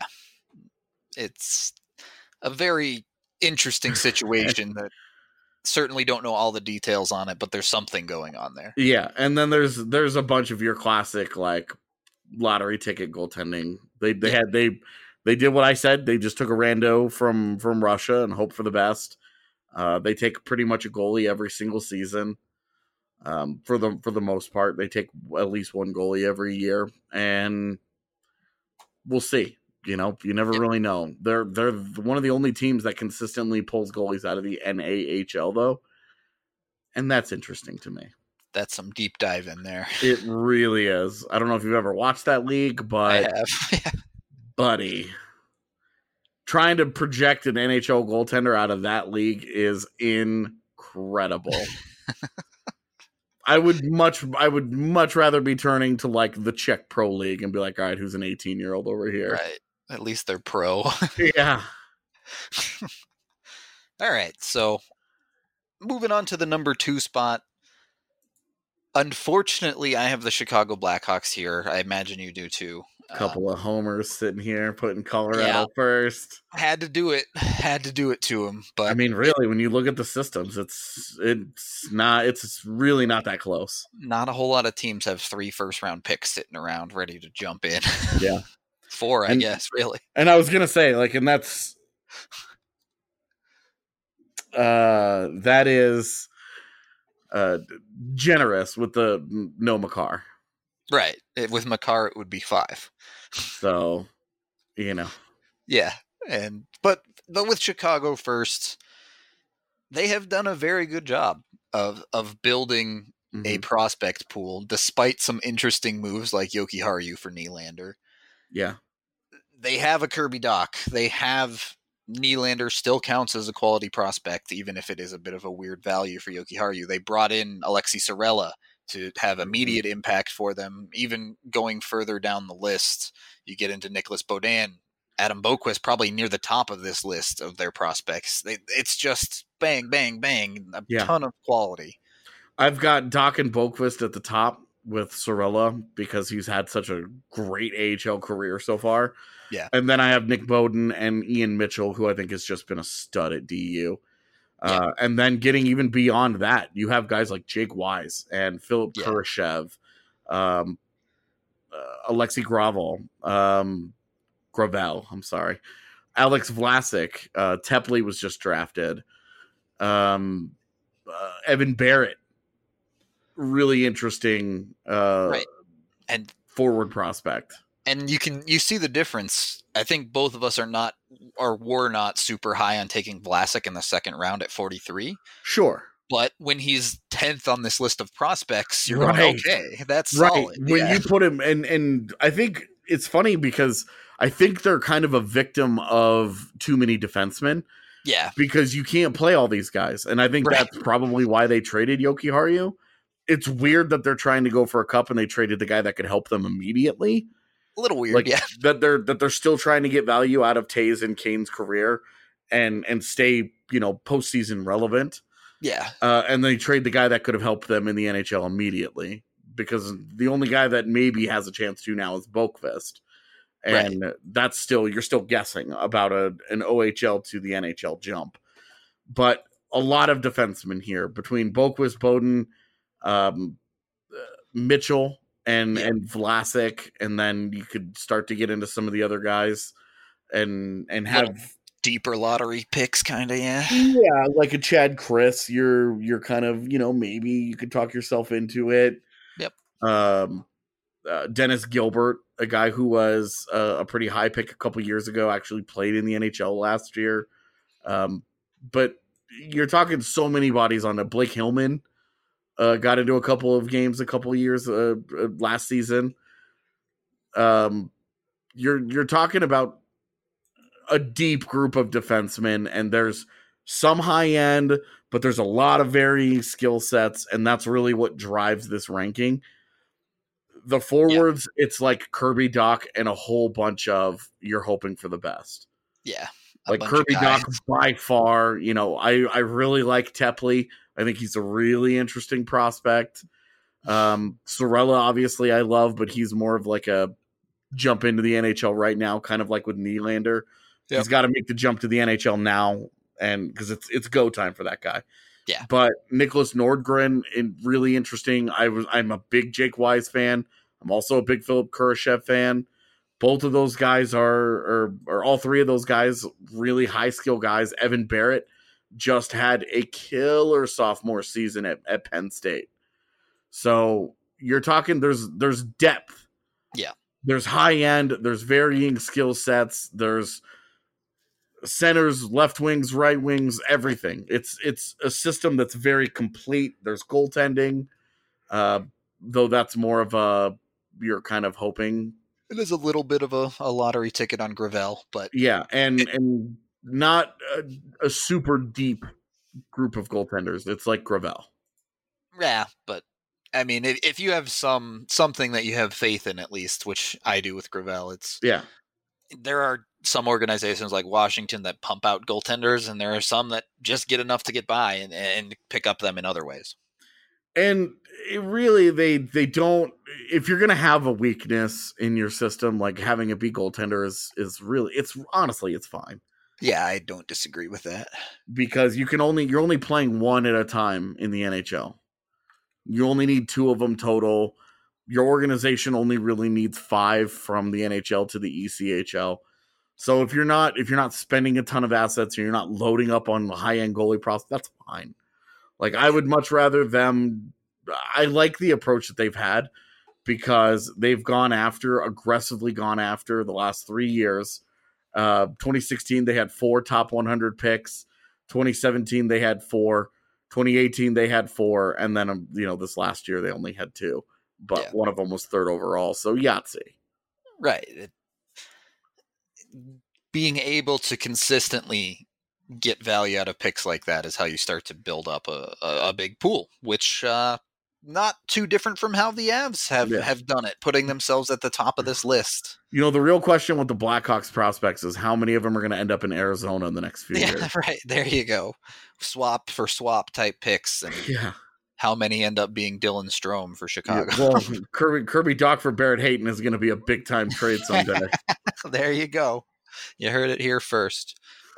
It's a very interesting situation that certainly don't know all the details on it, but there's something going on there. Yeah. And then there's there's a bunch of your classic, like, lottery ticket goaltending. They they yeah. had they they did what I said. They just took a rando from from Russia and hope for the best. Uh, they take pretty much a goalie every single season. Um, for the for the most part, they take at least one goalie every year, and we'll see. You know, you never yeah. really know. They're they're one of the only teams that consistently pulls goalies out of the N A H L, though, and that's interesting to me. That's some deep dive in there. It really is. I don't know if you've ever watched that league, but I have. buddy, trying to project an N H L goaltender out of that league is incredible. I would much, I would much rather be turning to like the Czech Pro League and be like, all right, who's an eighteen year old over here? Right. At least they're pro. Yeah. All right. So moving on to the number two spot. Unfortunately, I have the Chicago Blackhawks here. I imagine you do too. A couple um, of homers sitting here, putting Colorado yeah, first. Had to do it. Had to do it to him. But I mean, really, when you look at the systems, it's it's not. It's really not that close. Not a whole lot of teams have three first round picks sitting around ready to jump in. Yeah, four, I and, guess. Really. And I was gonna say, like, and that's uh, that is. Uh, generous with the no Makar. Right. It, with Makar, it would be five. So, you know. Yeah. And but but with Chicago first, they have done a very good job of of building mm-hmm. a prospect pool, despite some interesting moves like Yoki Haru for Nylander. Yeah. They have a Kirby Dach. They have Nylander still counts as a quality prospect, even if it is a bit of a weird value for Yoki Haru. They brought in Alexi Sorella to have immediate impact for them. Even going further down the list, you get into Nicholas Baudin, Adam Boquist, probably near the top of this list of their prospects. They, it's just bang, bang, bang, a yeah. ton of quality. I've got Dach and Boquist at the top with Sorella because he's had such a great A H L career so far. Yeah. And then I have Nick Bowden and Ian Mitchell, who I think has just been a stud at D U. Uh, yeah. And then getting even beyond that, you have guys like Jake Wise and Philip yeah. Kurashev, um, uh, Alexi Gravel, um, Gravel, I'm sorry. Alex Vlasic, uh, Tepley was just drafted. Um, uh, Evan Barrett, really interesting uh, right. And forward prospect. And you can you see the difference. I think both of us are not or were not super high on taking Vlasic in the second round at forty-three. Sure. But when he's tenth on this list of prospects, you're right. going, okay, that's right. solid. When yeah. you put him, and and I think it's funny because I think they're kind of a victim of too many defensemen. Yeah. Because you can't play all these guys. And I think right. that's probably why they traded Yoki Haru. It's weird that they're trying to go for a cup and they traded the guy that could help them immediately. A little weird, like, yeah. That they're that they're still trying to get value out of Taze and Kane's career and and stay, you know, postseason relevant. Yeah. Uh, and they trade the guy that could have helped them in the N H L immediately. Because the only guy that maybe has a chance to now is Boqvist. And right. that's still, you're still guessing about a an O H L to the N H L jump. But a lot of defensemen here between Boqvist, Bowden, um, uh, Mitchell, and, yeah. and Vlasic. And then you could start to get into some of the other guys and, and have Little deeper lottery picks, kind of, yeah. Yeah, like a Chad Chris. You're, you're kind of, you know, maybe you could talk yourself into it. Yep. Um, Uh, Dennis Gilbert, a guy who was uh, a pretty high pick a couple years ago, actually played in the N H L last year. Um, but you're talking so many bodies on it. Blake Hillman uh, got into a couple of games a couple of years uh, uh, last season. Um, you're you're talking about a deep group of defensemen, and there's some high end, but there's a lot of varying skill sets, and that's really what drives this ranking. The forwards, yeah. it's like Kirby Dach and a whole bunch of you're hoping for the best. Yeah. Like Kirby Dach by far, you know, I, I really like Tepley. I think he's a really interesting prospect. Um, Sorella, obviously, I love, but he's more of like a jump into the N H L right now, kind of like with Nylander. Yep. He's got to make the jump to the N H L now, and because it's it's go time for that guy. Yeah, but Nicholas Nordgren, in, really interesting. I was I'm a big Jake Wise fan. I'm also a big Philip Kurashev fan. Both of those guys are, or or all three of those guys, really high skill guys. Evan Barrett just had a killer sophomore season at, at Penn State. So you're talking there's there's depth. Yeah, there's high end. There's varying skill sets. There's centers, left wings, right wings, everything. It's it's a system that's very complete. There's goaltending, uh, though that's more of a you're kind of hoping. It is a little bit of a, a lottery ticket on Gravel, but yeah, and it, and not a, a super deep group of goaltenders. It's like Gravel. Yeah, but I mean, if, if you have some something that you have faith in, at least, which I do with Gravel, it's yeah. There are some organizations like Washington that pump out goaltenders, and there are some that just get enough to get by and, and pick up them in other ways. And it really, they they don't. If you're going to have a weakness in your system, like having a B goaltender is is really, it's honestly, it's fine. Yeah, I don't disagree with that, because you can only you're only playing one at a time in the N H L. You only need two of them total. Your organization only really needs five from the N H L to the E C H L. So if you're not if you're not spending a ton of assets and you're not loading up on high end goalie prospects, that's fine. Like I would much rather them. I like the approach that they've had because they've gone after aggressively gone after the last three years. Uh, twenty sixteen they had four top one hundred picks. twenty seventeen they had four. twenty eighteen they had four, and then um, you know this last year they only had two. But yeah. one of them was third overall, so Yahtzee. Right. It, being able to consistently get value out of picks like that is how you start to build up a, a, a big pool, which uh, not too different from how the Avs have, yeah. have done it, putting themselves at the top of this list. You know, the real question with the Blackhawks prospects is how many of them are going to end up in Arizona in the next few yeah, years. Right. There you go. Swap for swap type picks. And yeah. How many end up being Dylan Strome for Chicago? Yeah, well, Kirby, Kirby Dach for Barrett Hayton is going to be a big time trade someday. There you go. You heard it here first.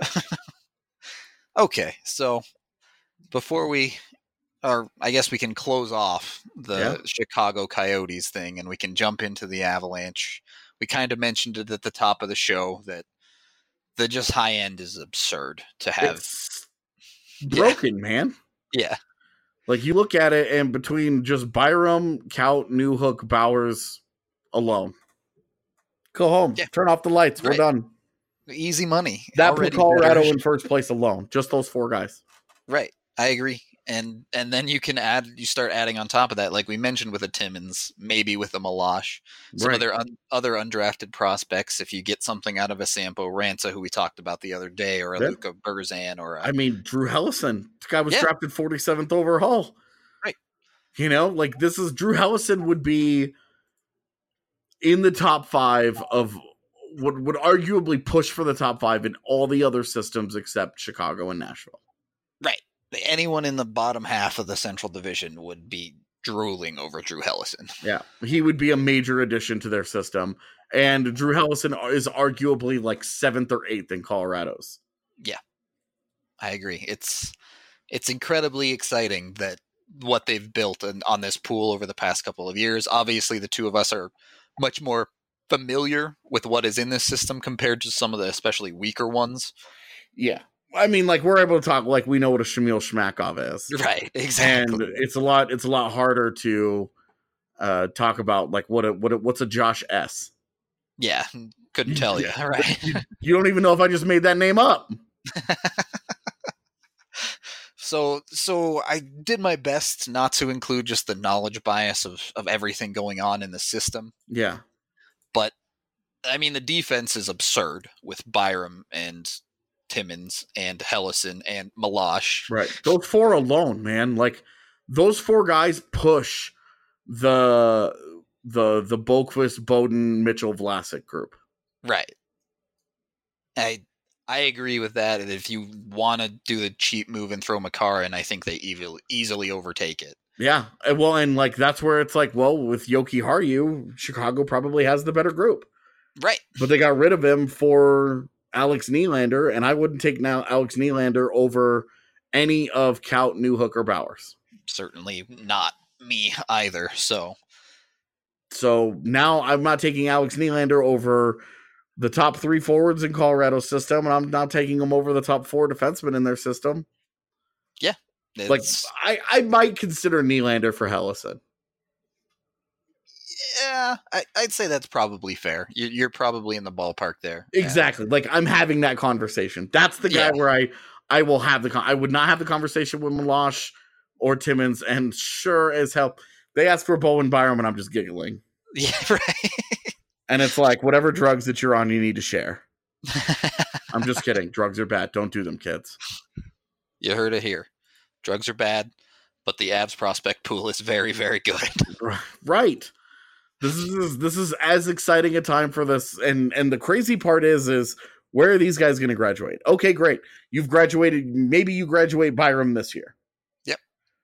Okay, so before we, or I guess we can close off the yeah. Chicago Coyotes thing and we can jump into the Avalanche. We kind of mentioned it at the top of the show that the just high end is absurd to have. It's broken, yeah. man. Yeah. Like, you look at it, and between just Byram, Kaut, Newhook, Bowers alone, go home, yeah. turn off the lights, we're right. done. Easy money. That put Colorado better. in first place alone. Just those four guys. Right. I agree. And and then you can add, you start adding on top of that, like we mentioned with a Timmins, maybe with a Meloche, some right. other un, other undrafted prospects. If you get something out of a Sampo Ranta, who we talked about the other day, or a yeah. Luca Burzan, or a, I mean, Drew Hellison. This guy was yeah. drafted forty-seventh overall. Right. You know, like, this is Drew Hellison would be in the top five of would would arguably push for the top five in all the other systems except Chicago and Nashville. Right. Anyone in the bottom half of the Central Division would be drooling over Drew Hellison. Yeah, he would be a major addition to their system. And Drew Hellison is arguably like seventh or eighth in Colorado's. Yeah, I agree. It's it's incredibly exciting that what they've built in, on this pool over the past couple of years. Obviously, the two of us are much more familiar with what is in this system compared to some of the especially weaker ones. Yeah. I mean, like, we're able to talk like we know what a Shamil Shmakov is. Right, exactly. And it's a lot it's a lot harder to uh, talk about like what a, what a, what's a Josh S. Yeah, couldn't tell you. Yeah. Right. You, you don't even know if I just made that name up. So so I did my best not to include just the knowledge bias of, of everything going on in the system. Yeah. But, I mean, the defense is absurd with Byram and Timmins and Hellison and Meloche. Right. Those four alone, man. Like, those four guys push the the the Boqvist, Bowden, Mitchell, Vlasic group. Right. I I agree with that. And if you want to do the cheap move and throw Makar in, I think they easily easily overtake it. Yeah. Well, and like that's where it's like, well, with Yoki Haru, Chicago probably has the better group. Right. But they got rid of him for Alex Nylander, and I wouldn't take now Alex Nylander over any of Kaut, Newhook, or Bowers. Certainly not me either. So, so now I'm not taking Alex Nylander over the top three forwards in Colorado's system, and I'm not taking him over the top four defensemen in their system. Yeah, like I, I might consider Nylander for Hellison. Yeah, I, I'd say that's probably fair. You're, you're probably in the ballpark there. Exactly. Yeah. Like, I'm having that conversation. That's the guy yeah. where I, I will have the con- I would not have the conversation with Meloche or Timmins, and sure as hell, they ask for Bowen Byram, and I'm just giggling. Yeah, right. And it's like, whatever drugs that you're on, you need to share. I'm just kidding. Drugs are bad. Don't do them, kids. You heard it here. Drugs are bad, but the Avs prospect pool is very, very good. Right. This is this is as exciting a time for this, and and the crazy part is is where are these guys going to graduate? Okay, great. You've graduated. Maybe you graduate Byram this year. Yep.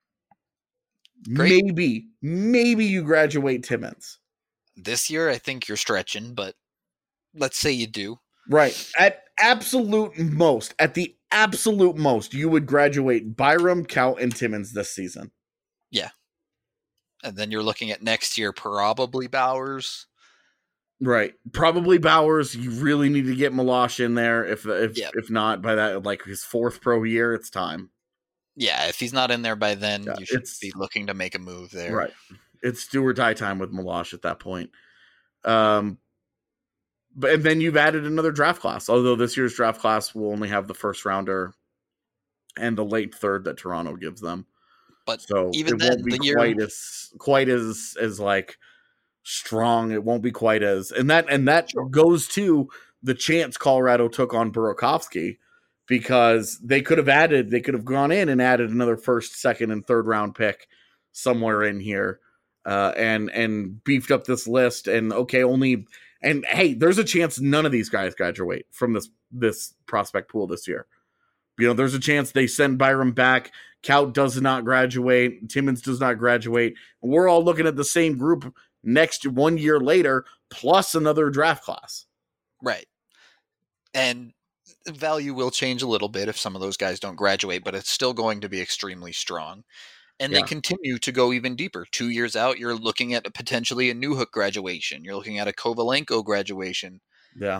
Great. Maybe maybe you graduate Timmins this year. I think you're stretching, but let's say you do. Right. At absolute most, at the absolute most, you would graduate Byram, Kaut, and Timmins this season. Yeah. And then you're looking at next year, probably Bowers. Right. Probably Bowers. You really need to get Meloche in there. If if yep. if not, by that, like his fourth pro year, it's time. Yeah, if he's not in there by then, yeah, you should be looking to make a move there. Right. It's do or die time with Meloche at that point. Um, but and then you've added another draft class, although this year's draft class will only have the first rounder and the late third that Toronto gives them. But so even it then, won't be the year... quite as quite as as like strong. It won't be quite as and that and that sure. goes to the chance Colorado took on Burakovsky, because they could have added, they could have gone in and added another first, second, and third round pick somewhere in here, uh, and and beefed up this list. And okay, only and hey, there's a chance none of these guys graduate from this this prospect pool this year. You know, there's a chance they send Byram back. Kaut does not graduate. Timmins does not graduate. And we're all looking at the same group next one year later, plus another draft class. Right. And value will change a little bit if some of those guys don't graduate, but it's still going to be extremely strong. And yeah. they continue to go even deeper. Two years out, you're looking at a potentially a Newhook graduation. You're looking at a Kovalenko graduation. Yeah.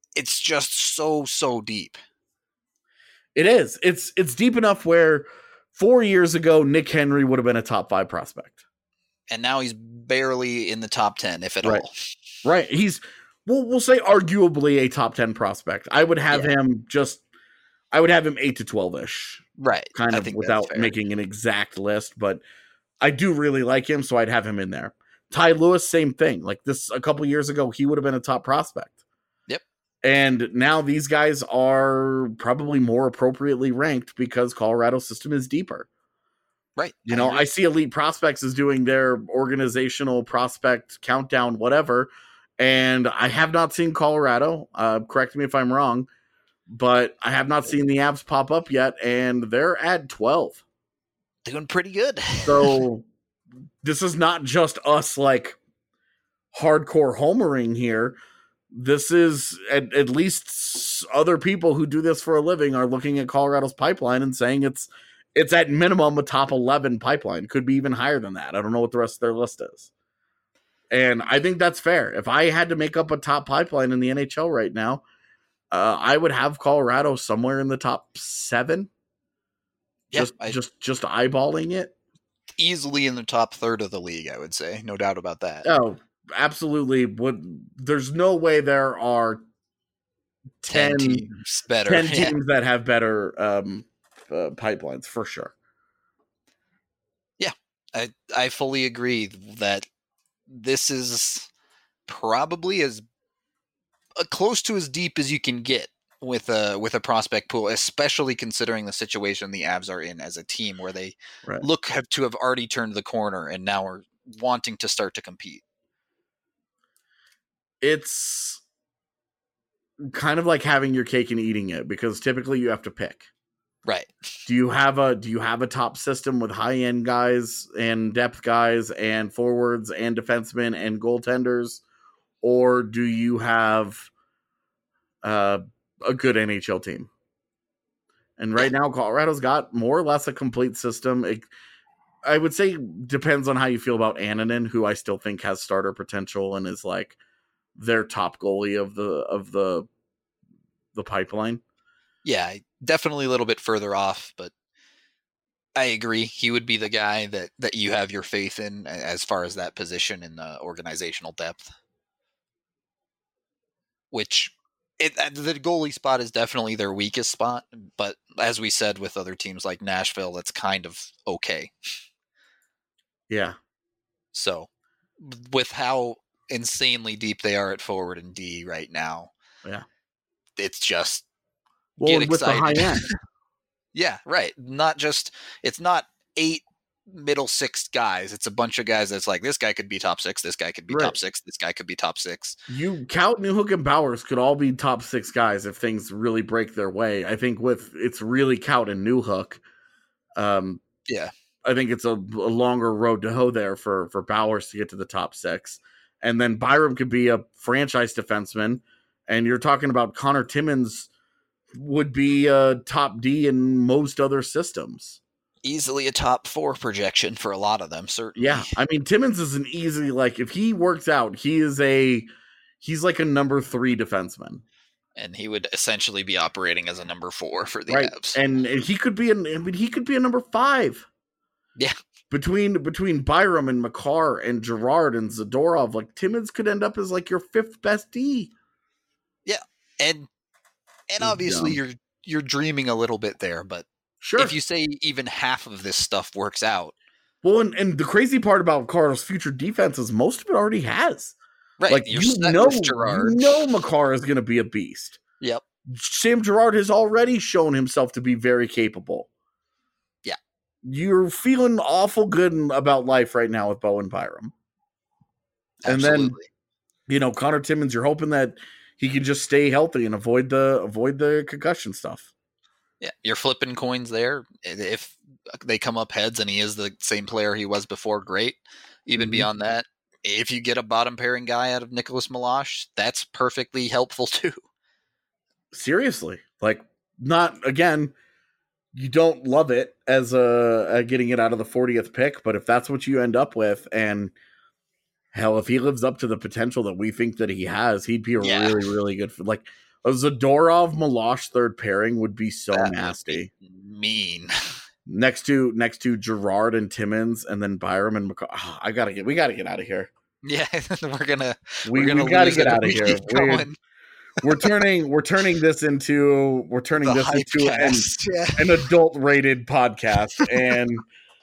it's just so, so deep. It is. It's it's deep enough where four years ago, Nick Henry would have been a top five prospect. And now he's barely in the top ten, if at right. all. Right. He's, we'll, we'll say arguably a top ten prospect. I would have yeah. him just, I would have him eight to twelve-ish. Right. Kind of without making an exact list, but I do really like him, so I'd have him in there. Ty Lewis, same thing. Like this, a couple years ago, he would have been a top prospect. And now these guys are probably more appropriately ranked because Colorado's system is deeper. Right. You know, I, I see Elite Prospects as doing their organizational prospect countdown, whatever. And I have not seen Colorado. Uh, correct me if I'm wrong. But I have not seen the Avs pop up yet. And they're at twelve. Doing pretty good. So this is not just us like hardcore homering here. This is at, at least other people who do this for a living are looking at Colorado's pipeline and saying it's it's at minimum a top eleven pipeline. Could be even higher than that. I don't know what the rest of their list is. And I think that's fair. If I had to make up a top pipeline in the N H L right now, uh, I would have Colorado somewhere in the top seven. Yeah, just, I, just, just eyeballing it. Easily in the top third of the league, I would say. No doubt about that. Oh, absolutely. Would there's no way there are ten, ten teams better ten yeah. teams that have better um, uh, pipelines for sure. Yeah, I I fully agree that this is probably as uh, close to as deep as you can get with a with a prospect pool, especially considering the situation the Avs are in as a team, where they right. look have to have already turned the corner and now are wanting to start to compete. It's kind of like having your cake and eating it, because typically you have to pick. Right. Do you have a do you have a top system with high end guys and depth guys and forwards and defensemen and goaltenders, or do you have uh, a good N H L team? And right now, Colorado's got more or less a complete system. It, I would say depends on how you feel about Annunen, who I still think has starter potential and is like their top goalie of the of the the pipeline. Yeah, definitely a little bit further off, but I agree. He would be the guy that, that you have your faith in as far as that position in the organizational depth. Which it, the goalie spot is definitely their weakest spot, but as we said with other teams like Nashville, that's kind of okay. Yeah. So with how insanely deep they are at forward and D right now, yeah, it's just well, get with excited. The high end. Yeah, right. Not just it's not eight middle six guys. It's a bunch of guys that's like, this guy could be top six, this guy could be right. top six, this guy could be top six. You Kaut, Newhook, and Bowers could all be top six guys if things really break their way. I think with it's really Kaut and Newhook. Um, yeah, I think it's a, a longer road to hoe there for for Bowers to get to the top six, and then Byram could be a franchise defenseman, and you're talking about Connor Timmins would be a top D in most other systems. Easily a top four projection for a lot of them, certainly. Yeah, I mean, Timmins is an easy, like, if he works out, he is a, he's like a number three defenseman. And he would essentially be operating as a number four for the right. Avs. And, and he could be, an, I mean, he could be a number five. Yeah. Between, between Byram and Makar and Gerard and Zadorov, like, Timmins could end up as, like, your fifth best D. Yeah. And, and obviously you're, you're dreaming a little bit there, but sure. If you say even half of this stuff works out. Well, and, and the crazy part about Colorado's future defense is most of it already has. Right. Like, You're you know, you know Makar is going to be a beast. Yep. Sam Girard has already shown himself to be very capable. Yeah. You're feeling awful good about life right now with Bowen Byram. Absolutely. And then, you know, Connor Timmins, you're hoping that he can just stay healthy and avoid the avoid the concussion stuff. Yeah, you're flipping coins there. If they come up heads and he is the same player he was before, great. Even mm-hmm. beyond that, if you get a bottom pairing guy out of Nicholas Milosh, that's perfectly helpful too. Seriously, like, not again. You don't love it as a, a getting it out of the fortieth pick, but if that's what you end up with, and hell, if he lives up to the potential that we think that he has, he'd be a yeah. really, really good. Like, A Zadorov Milosh third pairing would be so That nasty. would be mean. Next to next to Gerard and Timmins, and then Byram and McCall. Oh, I gotta get. We gotta get out of here. Yeah, we're gonna. We, we're gonna we gotta lose get it if out of we here. keep We're, going. we're turning. We're turning this into. We're turning The this into an, Hypecast, yeah. an adult rated podcast, and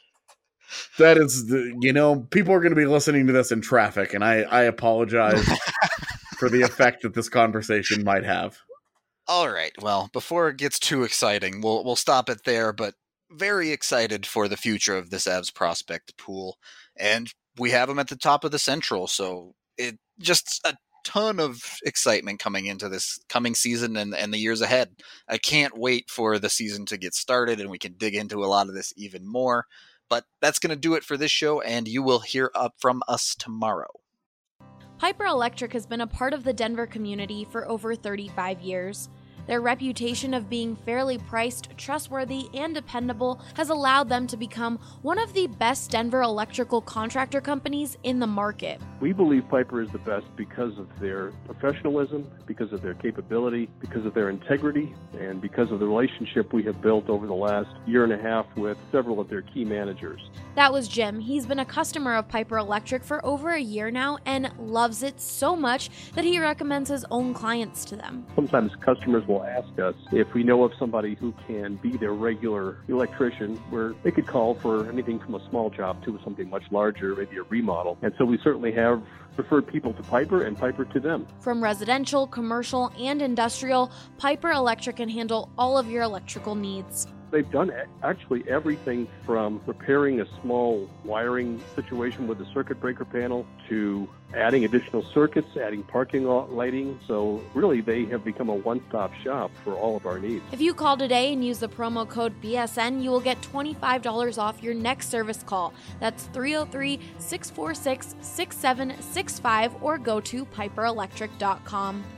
that is the. You know, people are going to be listening to this in traffic, and I I apologize for the effect that this conversation might have. All right. Well, before it gets too exciting, we'll we'll stop it there. But very excited for the future of this Avs prospect pool, and we have them at the top of the Central. So it just a ton of excitement coming into this coming season and and the years ahead. I can't wait for the season to get started, and we can dig into a lot of this even more. But that's going to do it for this show, and you will hear up from us tomorrow. Piper Electric has been a part of the Denver community for over thirty-five years. Their reputation of being fairly priced, trustworthy, and dependable has allowed them to become one of the best Denver electrical contractor companies in the market. We believe Piper is the best because of their professionalism, because of their capability, because of their integrity, and because of the relationship we have built over the last year and a half with several of their key managers. That was Jim. He's been a customer of Piper Electric for over a year now and loves it so much that he recommends his own clients to them. Sometimes customers will ask us if we know of somebody who can be their regular electrician, where they could call for anything from a small job to something much larger, maybe a remodel. And so we certainly have referred people to Piper and Piper to them. From residential, commercial, and industrial, Piper Electric can handle all of your electrical needs. They've done actually everything from repairing a small wiring situation with a circuit breaker panel to adding additional circuits, adding parking lot lighting. So really, they have become a one-stop shop for all of our needs. If you call today and use the promo code B S N, you will get twenty-five dollars off your next service call. That's three oh three, six four six, six seven six five or go to piper electric dot com.